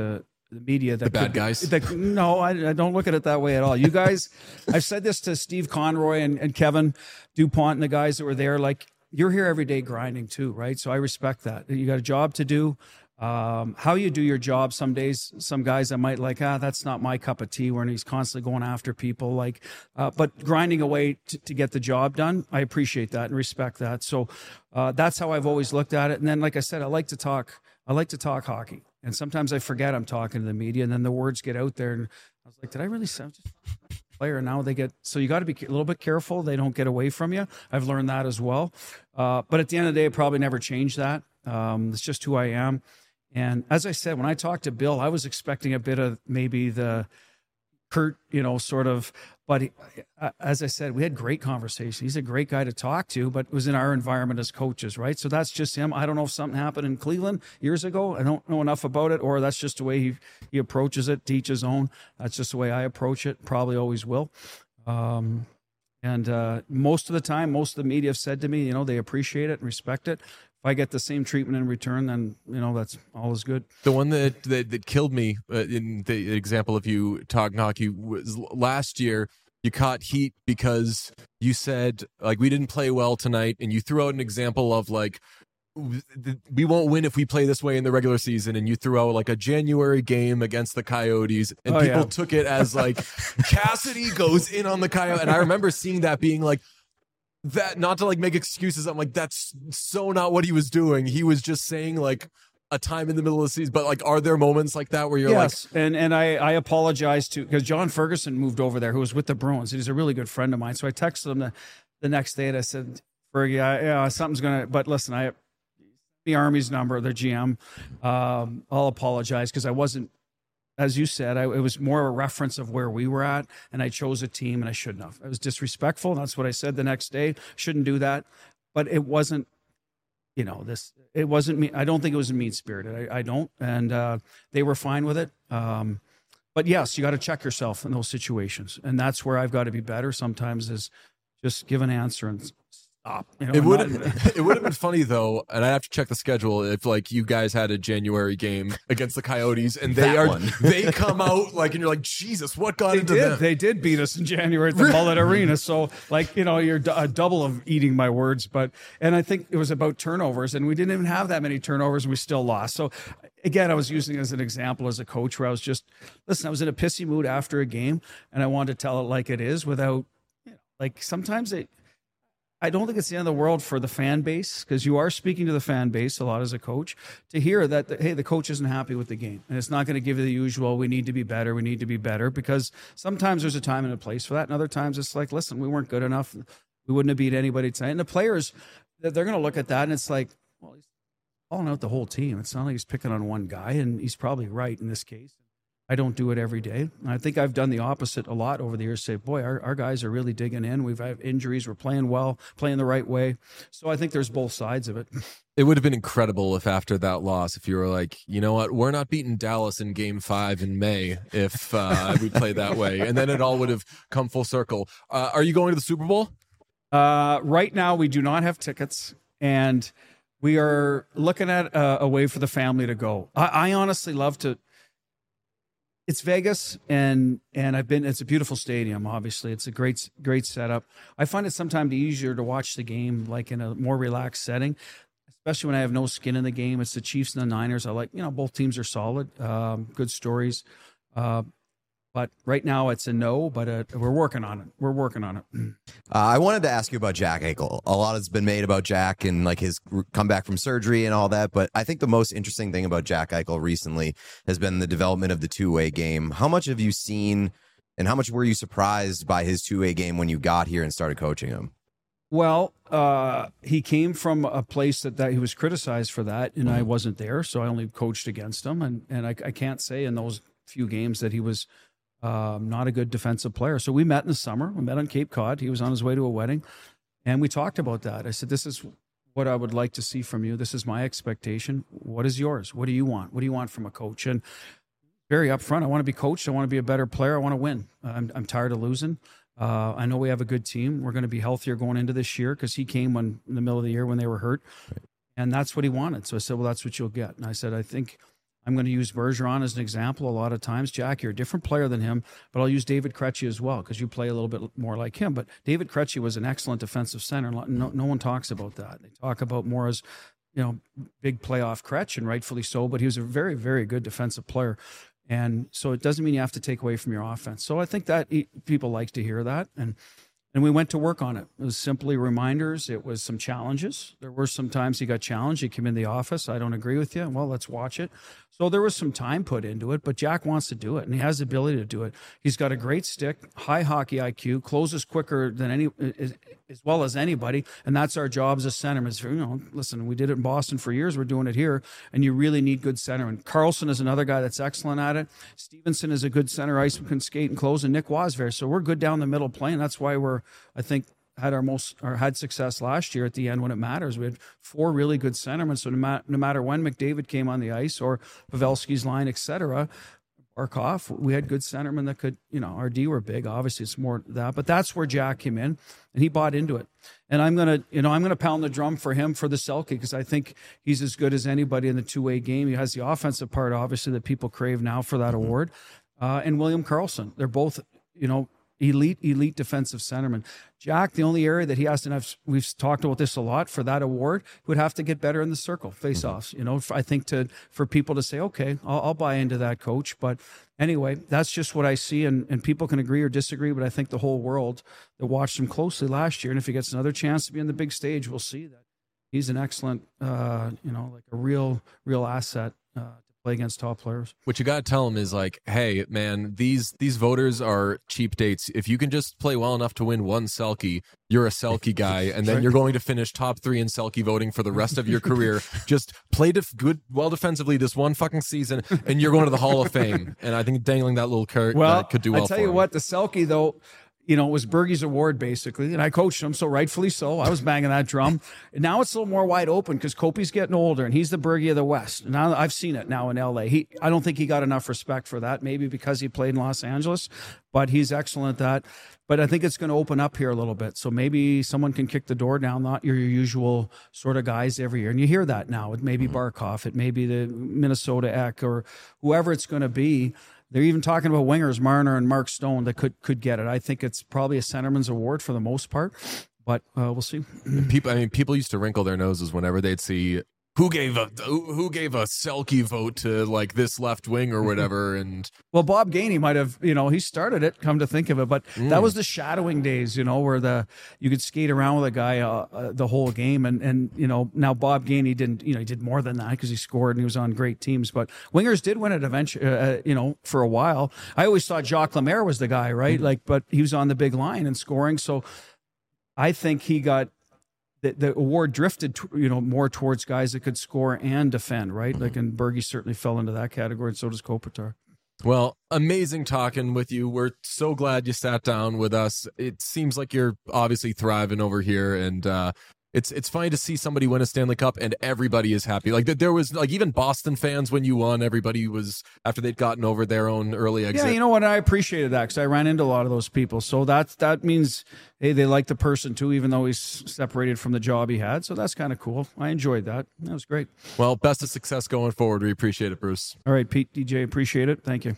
the media that The bad could be- guys? no, I don't look at it that way at all. You guys, I've said this to Steve Conroy and Kevin DuPont and the guys that were there. Like, you're here every day grinding too, right? So I respect that. You got a job to do. How you do your job, some days, some guys that might like, that's not my cup of tea, when he's constantly going after people. Like, but grinding away to get the job done, I appreciate that and respect that. So that's how I've always looked at it. And then, like I said, I like to talk hockey. And sometimes I forget I'm talking to the media, and then the words get out there. And I was like, did I really sound just a player? Now they get, so you got to be a little bit careful. They don't get away from you. I've learned that as well. But at the end of the day, it probably never changed that. It's just who I am. And as I said, when I talked to Bill, I was expecting a bit of maybe the Kurt, sort of, but as I said, we had great conversation. He's a great guy to talk to, but it was in our environment as coaches, right? So that's just him. I don't know if something happened in Cleveland years ago. I don't know enough about it, or that's just the way he approaches it, to each his own. That's just the way I approach it. Probably always will. And most of the time, most of the media have said to me, they appreciate it and respect it. If I get the same treatment in return, then that's all is good. The one that killed me in the example of you talking hockey was last year. You caught heat because you said, like, we didn't play well tonight, and you threw out an example of, like, we won't win if we play this way in the regular season, and you threw out like a January game against the Coyotes, and people took it as like Cassidy goes in on the Coyote. And I remember seeing that, being like, that, not to like make excuses, I'm like, that's so not what he was doing. He was just saying like a time in the middle of the season. But like, are there moments like that where you're yes, and I apologize to, because John Ferguson moved over there, who was with the Bruins. He's a really good friend of mine. So I texted him the next day and I said, Fergie, yeah, something's gonna, but listen, the Army's number, their GM, I'll apologize, because I wasn't, as you said, it was more a reference of where we were at, and I chose a team, and I shouldn't have. I was disrespectful, and that's what I said the next day. Shouldn't do that. But it wasn't, it wasn't me. I don't think it was mean-spirited. I don't. And they were fine with it. But yes, you got to check yourself in those situations. And that's where I've got to be better sometimes, is just give an answer and stop. It would have been funny though, and I have to check the schedule, if like you guys had a January game against the Coyotes and they come out like, and you're like, Jesus, what got into them? They did beat us in January at the Mullet Arena. So like, you're a double of eating my words, and I think it was about turnovers, and we didn't even have that many turnovers, and we still lost. So again, I was using it as an example as a coach, where I was just, I was in a pissy mood after a game, and I wanted to tell it like it is, without, like, sometimes I don't think it's the end of the world for the fan base, because you are speaking to the fan base a lot as a coach, to hear that, hey, the coach isn't happy with the game. And it's not going to give you the usual, we need to be better, because sometimes there's a time and a place for that. And other times it's like, listen, we weren't good enough. We wouldn't have beat anybody tonight. And the players, they're going to look at that, and it's like, well, he's calling out the whole team. It's not like he's picking on one guy, and he's probably right in this case. I don't do it every day. And I think I've done the opposite a lot over the years. Say, boy, our guys are really digging in. We've had injuries. We're playing well, playing the right way. So I think there's both sides of it. It would have been incredible if after that loss, if you were like, you know what, we're not beating Dallas in Game 5 in May if we play that way. And then it all would have come full circle. Are you going to the Super Bowl? Right now, we do not have tickets. And we are looking at a way for the family to go. I honestly love to. It's Vegas, and it's a beautiful stadium, obviously. It's a great setup. I find it sometimes easier to watch the game like in a more relaxed setting, especially when I have no skin in the game. It's the Chiefs and the Niners. I like, both teams are solid, good stories. But right now it's a no, but we're working on it. I wanted to ask you about Jack Eichel. A lot has been made about Jack and like his comeback from surgery and all that, but I think the most interesting thing about Jack Eichel recently has been the development of the two-way game. How much have you seen, and how much were you surprised by his two-way game when you got here and started coaching him? Well, he came from a place that he was criticized for that, and I wasn't there, so I only coached against him, and I can't say in those few games that he was not a good defensive player. So we met in the summer. We met on Cape Cod. He was on his way to a wedding, and we talked about that. I said, this is what I would like to see from you. This is my expectation. What is yours? What do you want? What do you want from a coach? And very upfront, I want to be coached. I want to be a better player. I want to win. I'm tired of losing. I know we have a good team. We're going to be healthier going into this year, because he came in the middle of the year when they were hurt. And that's what he wanted. So I said, well, that's what you'll get. And I said, I think I'm going to use Bergeron as an example a lot of times. Jack, you're a different player than him, but I'll use David Krejci as well because you play a little bit more like him. But David Krejci was an excellent defensive center. No one talks about that. They talk about more as, big playoff Krejci, and rightfully so, but he was a very, very good defensive player. And so it doesn't mean you have to take away from your offense. So I think that people like to hear that. And we went to work on it. It was simply reminders. It was some challenges. There were some times he got challenged. He came in the office. I don't agree with you. Well, let's watch it. So there was some time put into it, but Jack wants to do it, and he has the ability to do it. He's got a great stick, high hockey IQ, closes quicker than as well as anybody, and that's our job as a centerman. Listen, we did it in Boston for years. We're doing it here, and you really need good centermen. Carlson is another guy that's excellent at it. Stevenson is a good center ice, can skate and close, and Nick Wasver. So we're good down the middle playing. That's why I think, had success last year at the end when it matters. We had 4 really good centermen. So no matter when McDavid came on the ice or Pavelski's line, etc., Barkov, we had good centermen that could, our D were big. Obviously, it's more that, but that's where Jack came in, and he bought into it. And I'm gonna pound the drum for him for the Selke because I think he's as good as anybody in the two-way game. He has the offensive part, obviously, that people crave now for that award. And William Karlsson, they're both, elite defensive centerman. Jack, the only area that he has to have, we've talked about this a lot, for that award, would have to get better in the circle, face-offs. I think for people to say, okay, I'll buy into that, coach. But anyway, that's just what I see, and people can agree or disagree, but I think the whole world that watched him closely last year, and if he gets another chance to be on the big stage, we'll see that he's an excellent, like a real asset to play against top players. What you got to tell them is like, hey, man, these voters are cheap dates. If you can just play well enough to win one Selke, you're a Selke guy, and then you're going to finish top 3 in Selke voting for the rest of your career. Just play well defensively this one fucking season, and you're going to the Hall of Fame. And I think dangling that little carrot could do well. I tell you what, the Selke though. It was Bergie's award, basically, and I coached him, so rightfully so. I was banging that drum. And now it's a little more wide open because Kopi's getting older, and he's the Bergie of the West. Now I've seen it now in L.A. I don't think he got enough respect for that, maybe because he played in Los Angeles, but he's excellent at that. But I think it's going to open up here a little bit, so maybe someone can kick the door down, not your usual sort of guys every year. And you hear that now. It may be Barkov, it may be the Minnesota Eck, or whoever it's going to be. They're even talking about wingers, Marner and Mark Stone, that could get it. I think it's probably a centerman's award for the most part, but we'll see. People used to wrinkle their noses whenever they'd see who gave a Selke vote to like this left wing or whatever. And well, Bob Gainey might have, he started it, come to think of it, but that was the shadowing days, where you could skate around with a guy the whole game, and now Bob Gainey didn't, he did more than that because he scored and he was on great teams, but wingers did win it eventually, for a while. I always thought Jacques Lemaire was the guy, right? But he was on the big line and scoring, so I think he got. The award drifted, more towards guys that could score and defend, right? And Bergie certainly fell into that category, and so does Kopitar. Well, amazing talking with you. We're so glad you sat down with us. It seems like you're obviously thriving over here, and it's funny to see somebody win a Stanley Cup and everybody is happy. Like there was even Boston fans when you won. Everybody was, after they'd gotten over their own early exit. Yeah, you know what? I appreciated that because I ran into a lot of those people. So that means, hey, they like the person too, even though he's separated from the job he had. So that's kind of cool. I enjoyed that. That was great. Well, best of success going forward. We appreciate it, Bruce. All right, Pete, DJ, appreciate it. Thank you.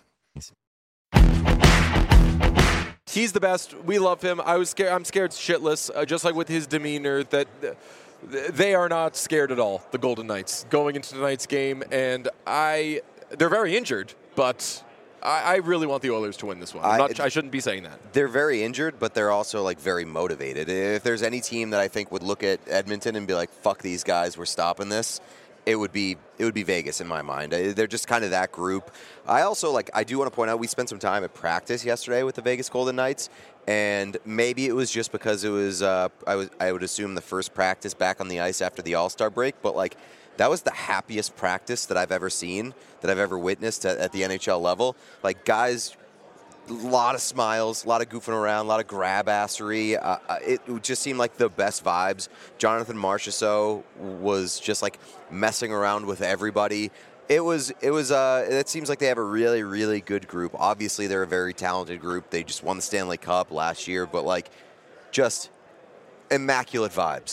He's the best. We love him. I'm scared shitless, just like with his demeanor, that they are not scared at all, the Golden Knights, going into tonight's game. And they're very injured, but I really want the Oilers to win this one. I shouldn't be saying that. They're very injured, but they're also very motivated. If there's any team that I think would look at Edmonton and be like, fuck these guys, we're stopping this, it would be Vegas in my mind. They're just kind of that group. I also I do want to point out we spent some time at practice yesterday with the Vegas Golden Knights, and maybe it was just because it was I would assume the first practice back on the ice after the All-Star break, but that was the happiest practice that I've ever seen, that I've ever witnessed at the NHL level. Guys, a lot of smiles, a lot of goofing around, a lot of grab-assery. It just seemed like the best vibes. Jonathan Marchessault was just messing around with everybody. It seems like they have a really, really good group. Obviously, they're a very talented group. They just won the Stanley Cup last year, but just immaculate vibes.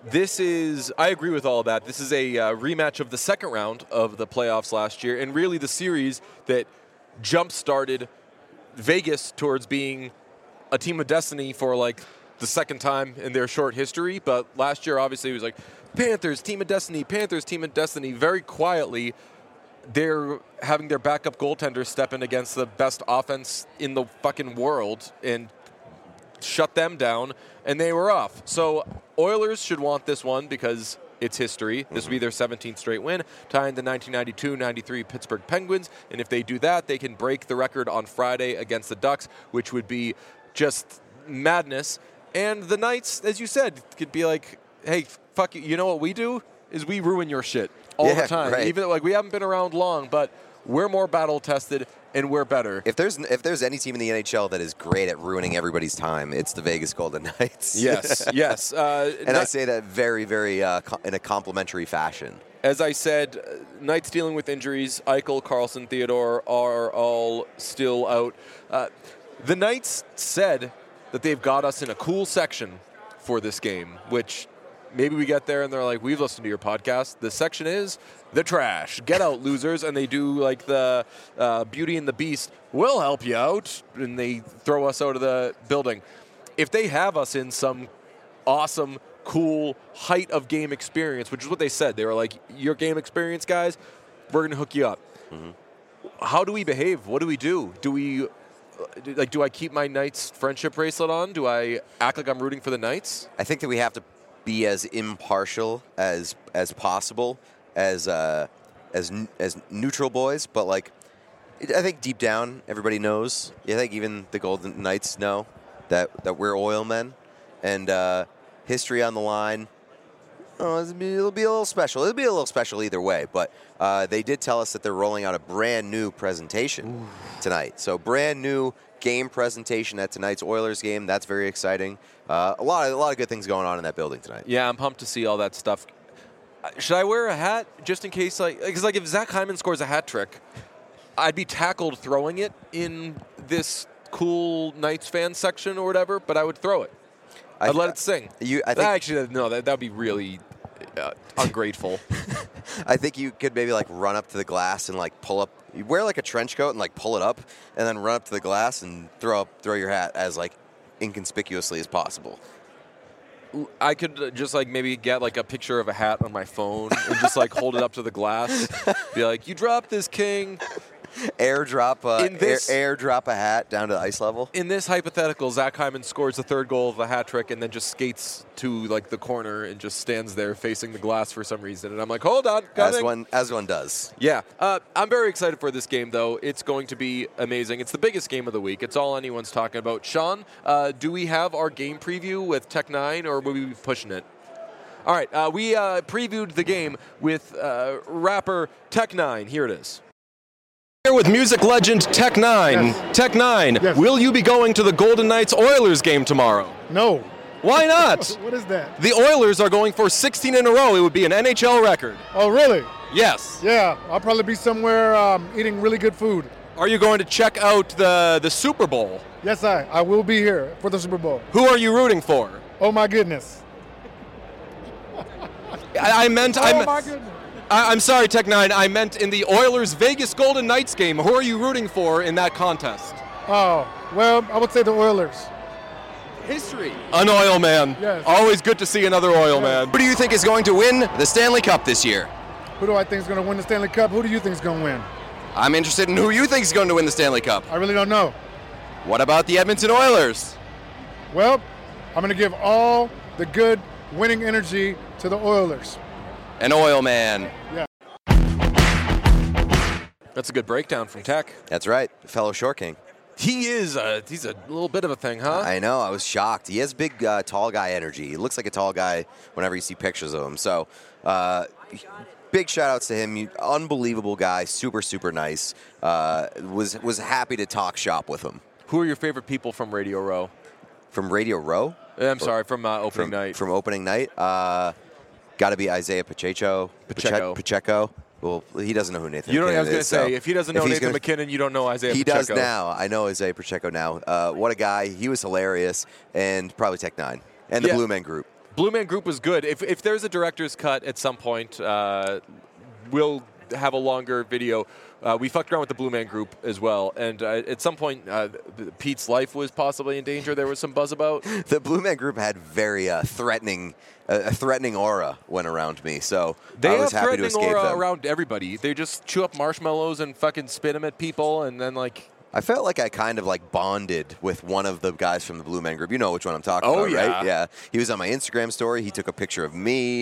I agree with all of that. This is a rematch of the second round of the playoffs last year, and really the series that jump-started Vegas towards being a team of destiny for like the second time in their short history. But last year, obviously, it was like Panthers, team of destiny, Panthers, team of destiny. Very quietly, they're having their backup goaltender step in against the best offense in the fucking world and shut them down, and they were off. So Oilers should want this one because it's history. This will be their 17th straight win, tying the 1992-93 Pittsburgh Penguins. And if they do that, they can break the record on Friday against the Ducks, which would be just madness. And the Knights, as you said, could be like, hey, fuck you. You know what we do is we ruin your shit all the time. Right. Even like we haven't been around long, but we're more battle tested and we're better. If there's any team in the NHL that is great at ruining everybody's time, it's the Vegas Golden Knights. Yes, yes. And I say that very, very in a complimentary fashion. As I said, Knights dealing with injuries. Eichel, Carlson, Theodore are all still out. The Knights said that they've got us in a cool section for this game, which maybe we get there and they're like, we've listened to your podcast. The section is the trash. Get out, losers. And they do like the Beauty and the Beast. We'll help you out. And they throw us out of the building. If they have us in some awesome, cool height of game experience, which is what they said. They were like, your game experience, guys, we're going to hook you up. Mm-hmm. How do we behave? What do we do? Do I keep my Knights friendship bracelet on? Do I act like I'm rooting for the Knights? I think that we have to be as impartial as possible, as neutral boys. But like, I think deep down everybody knows. I think even the Golden Knights know that we're oil men, and history on the line. Oh, it'll be a little special. It'll be a little special either way. But they did tell us that they're rolling out a brand new presentation tonight. So brand new game presentation at tonight's Oilers game. That's very exciting. A lot of good things going on in that building tonight. Yeah, I'm pumped to see all that stuff. Should I wear a hat just in case? Because if Zach Hyman scores a hat trick, I'd be tackled throwing it in this cool Knights fan section or whatever. But I would throw it. I'd let it sing. That would be really ungrateful. I think you could maybe like run up to the glass and like pull up. You wear like a trench coat and like pull it up, and then run up to the glass and throw your hat as like inconspicuously as possible. I could just like maybe get like a picture of a hat on my phone and just like hold it up to the glass. Be like, you dropped this, king. Airdrop a hat down to ice level. In this hypothetical, Zach Hyman scores the third goal of the hat trick and then just skates to like the corner and just stands there facing the glass for some reason. And I'm like, hold on, as one does. Yeah, I'm very excited for this game though. It's going to be amazing. It's the biggest game of the week. It's all anyone's talking about. Sean, do we have our game preview with Tech 9 or will we be pushing it? All right, we previewed the game with rapper Tech 9. Here it is. Here with music legend Tech 9. Yes. Tech 9, Yes. Will you be going to the Golden Knights Oilers game tomorrow? No. Why not? What is that? The Oilers are going for 16 in a row. It would be an NHL record. Oh, really? Yes. Yeah, I'll probably be somewhere eating really good food. Are you going to check out the Super Bowl? Yes, I will be here for the Super Bowl. Who are you rooting for? Oh, my goodness. I meant. Oh, my goodness. I'm sorry, Tech 9. I meant in the Oilers Vegas Golden Knights game. Who are you rooting for in that contest? Oh, well, I would say the Oilers. History. An oil man. Yes. Always good to see another oil man. Who do you think is going to win the Stanley Cup this year? Who do I think is going to win the Stanley Cup? Who do you think is going to win? I'm interested in who you think is going to win the Stanley Cup. I really don't know. What about the Edmonton Oilers? Well, I'm going to give all the good winning energy to the Oilers. An oil man. Yeah. That's a good breakdown from Tech. That's right, fellow Short King. He's a little bit of a thing, huh? I know, I was shocked. He has big tall guy energy. He looks like a tall guy whenever you see pictures of him. So big shout outs to him. Unbelievable guy, super, super nice. Was happy to talk shop with him. Who are your favorite people from Radio Row? From Radio Row? From opening night. From opening night? Got to be Isaiah Pacheco. Pacheco. Well, he doesn't know who Nathan McKinnon is. I was going to say, if he doesn't know Nathan McKinnon, you don't know Isaiah Pacheco. He does now. I know Isaiah Pacheco now. What a guy. He was hilarious. And probably Tech 9. And the Blue Men Group. Blue Man Group was good. If there's a director's cut at some point, we'll have a longer video. We fucked around with the Blue Man Group as well, and at some point, Pete's life was possibly in danger. There was some buzz about. The Blue Man Group had very threatening aura went around me, so They I have was happy to threatening escape aura them. around everybody. They just chew up marshmallows and fucking spit them at people, and then like. I felt like I kind of like bonded with one of the guys from the Blue Man Group. You know which one I'm talking Oh, about, yeah. right? Yeah. He was on my Instagram story. He took a picture of me,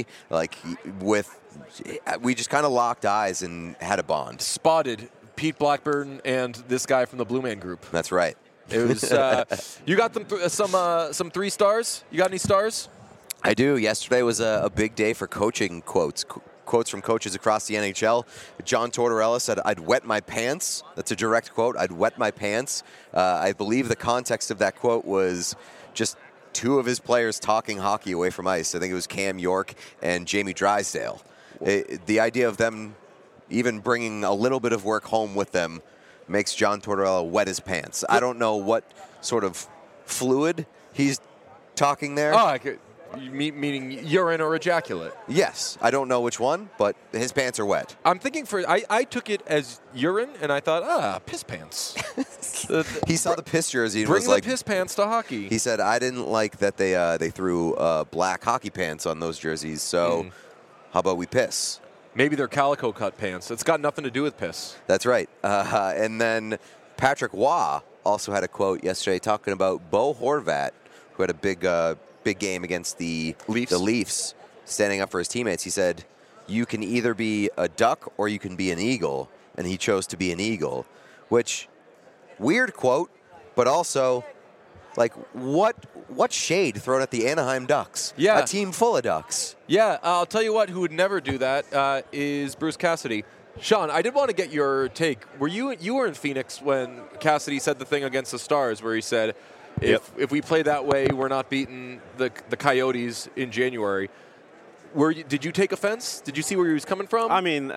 we just kind of locked eyes and had a bond. Spotted Pete Blackburn and this guy from the Blue Man Group. That's right. It was. You got them some 3 stars. You got any stars? I do. Yesterday was a big day for coaching quotes. Quotes from coaches across the NHL. John Tortorella said, "I'd wet my pants." That's a direct quote. "I'd wet my pants." I believe the context of that quote was just 2 of his players talking hockey away from ice. I think it was Cam York and Jamie Drysdale. The idea of them even bringing a little bit of work home with them makes John Tortorella wet his pants. I don't know what sort of fluid he's talking there. Oh, meaning urine or ejaculate. Yes, I don't know which one, but his pants are wet. I'm thinking I took it as urine, and I thought, piss pants. He saw the piss jersey and Bring was the like, piss pants to hockey. he said, "I didn't like that they threw black hockey pants on those jerseys, so how about we piss?" Maybe they're calico cut pants. It's got nothing to do with piss. That's right. And then Patrick Waugh also had a quote yesterday talking about Bo Horvat, who had a big game against the Leafs, standing up for his teammates. He said, "You can either be a duck or you can be an eagle," and he chose to be an eagle, which weird quote, but also like what shade thrown at the Anaheim Ducks? Yeah. A team full of ducks. Yeah, I'll tell you what, who would never do that is Bruce Cassidy. Sean, I did want to get your take. You were in Phoenix when Cassidy said the thing against the Stars where he said, if we play that way, we're not beating the Coyotes in January. Did you take offense? Did you see where he was coming from? I mean,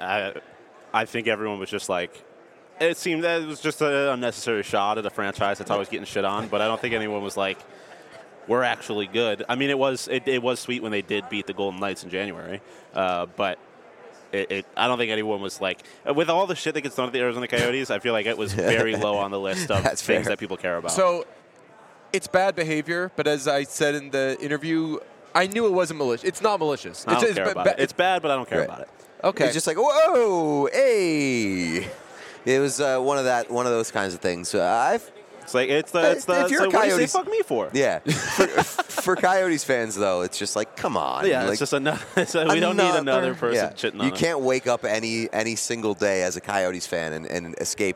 I think everyone was just like, it seemed that it was just an unnecessary shot at a franchise that's always getting shit on, but I don't think anyone was like, we're actually good. I mean, it was sweet when they did beat the Golden Knights in January, but I don't think anyone was like, with all the shit that gets done at the Arizona Coyotes, I feel like it was very low on the list of That's things fair. that people care about. So it's bad behavior, but as I said in the interview, I knew it wasn't malicious. It's not malicious. I don't care about it. It's bad, but I don't care about it. Okay. It's just like, whoa, hey. It was one of those kinds of things. It's like it's if you're so a what do you say Coyotes, fuck me for? Yeah. For Coyotes fans, though, it's just like, come on. Yeah, like, it's just another. We don't need another person shitting on You us. can't wake up any single day as a Coyotes fan and escape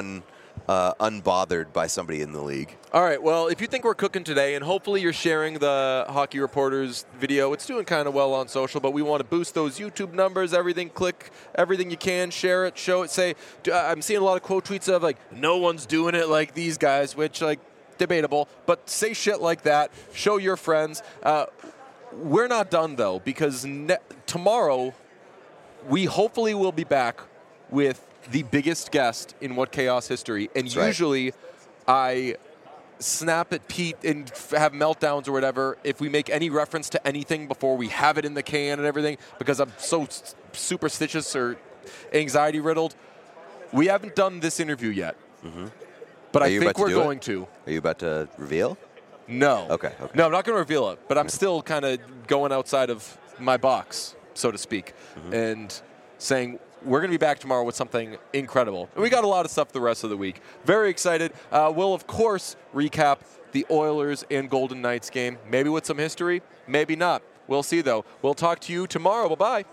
unbothered by somebody in the league. All right, well, if you think we're cooking today, and hopefully you're sharing the Hockey Reporters video, it's doing kind of well on social, but we want to boost those YouTube numbers, everything, click everything you can, share it, show it, say, I'm seeing a lot of quote tweets of, like, no one's doing it like these guys, which, like, debatable, but say shit like that, show your friends. We're not done, though, because tomorrow we hopefully will be back with the biggest guest in What Chaos history, and That's right. usually I snap at Pete and have meltdowns or whatever if we make any reference to anything before we have it in the can and everything, because I'm so superstitious or anxiety riddled. We haven't done this interview yet, but I think we're going to. Are you about to reveal? No. Okay. No, I'm not going to reveal it, but I'm still kind of going outside of my box, so to speak, and saying we're going to be back tomorrow with something incredible. And we got a lot of stuff the rest of the week. Very excited. We'll, of course, recap the Oilers and Golden Knights game, maybe with some history, maybe not. We'll see, though. We'll talk to you tomorrow. Bye-bye.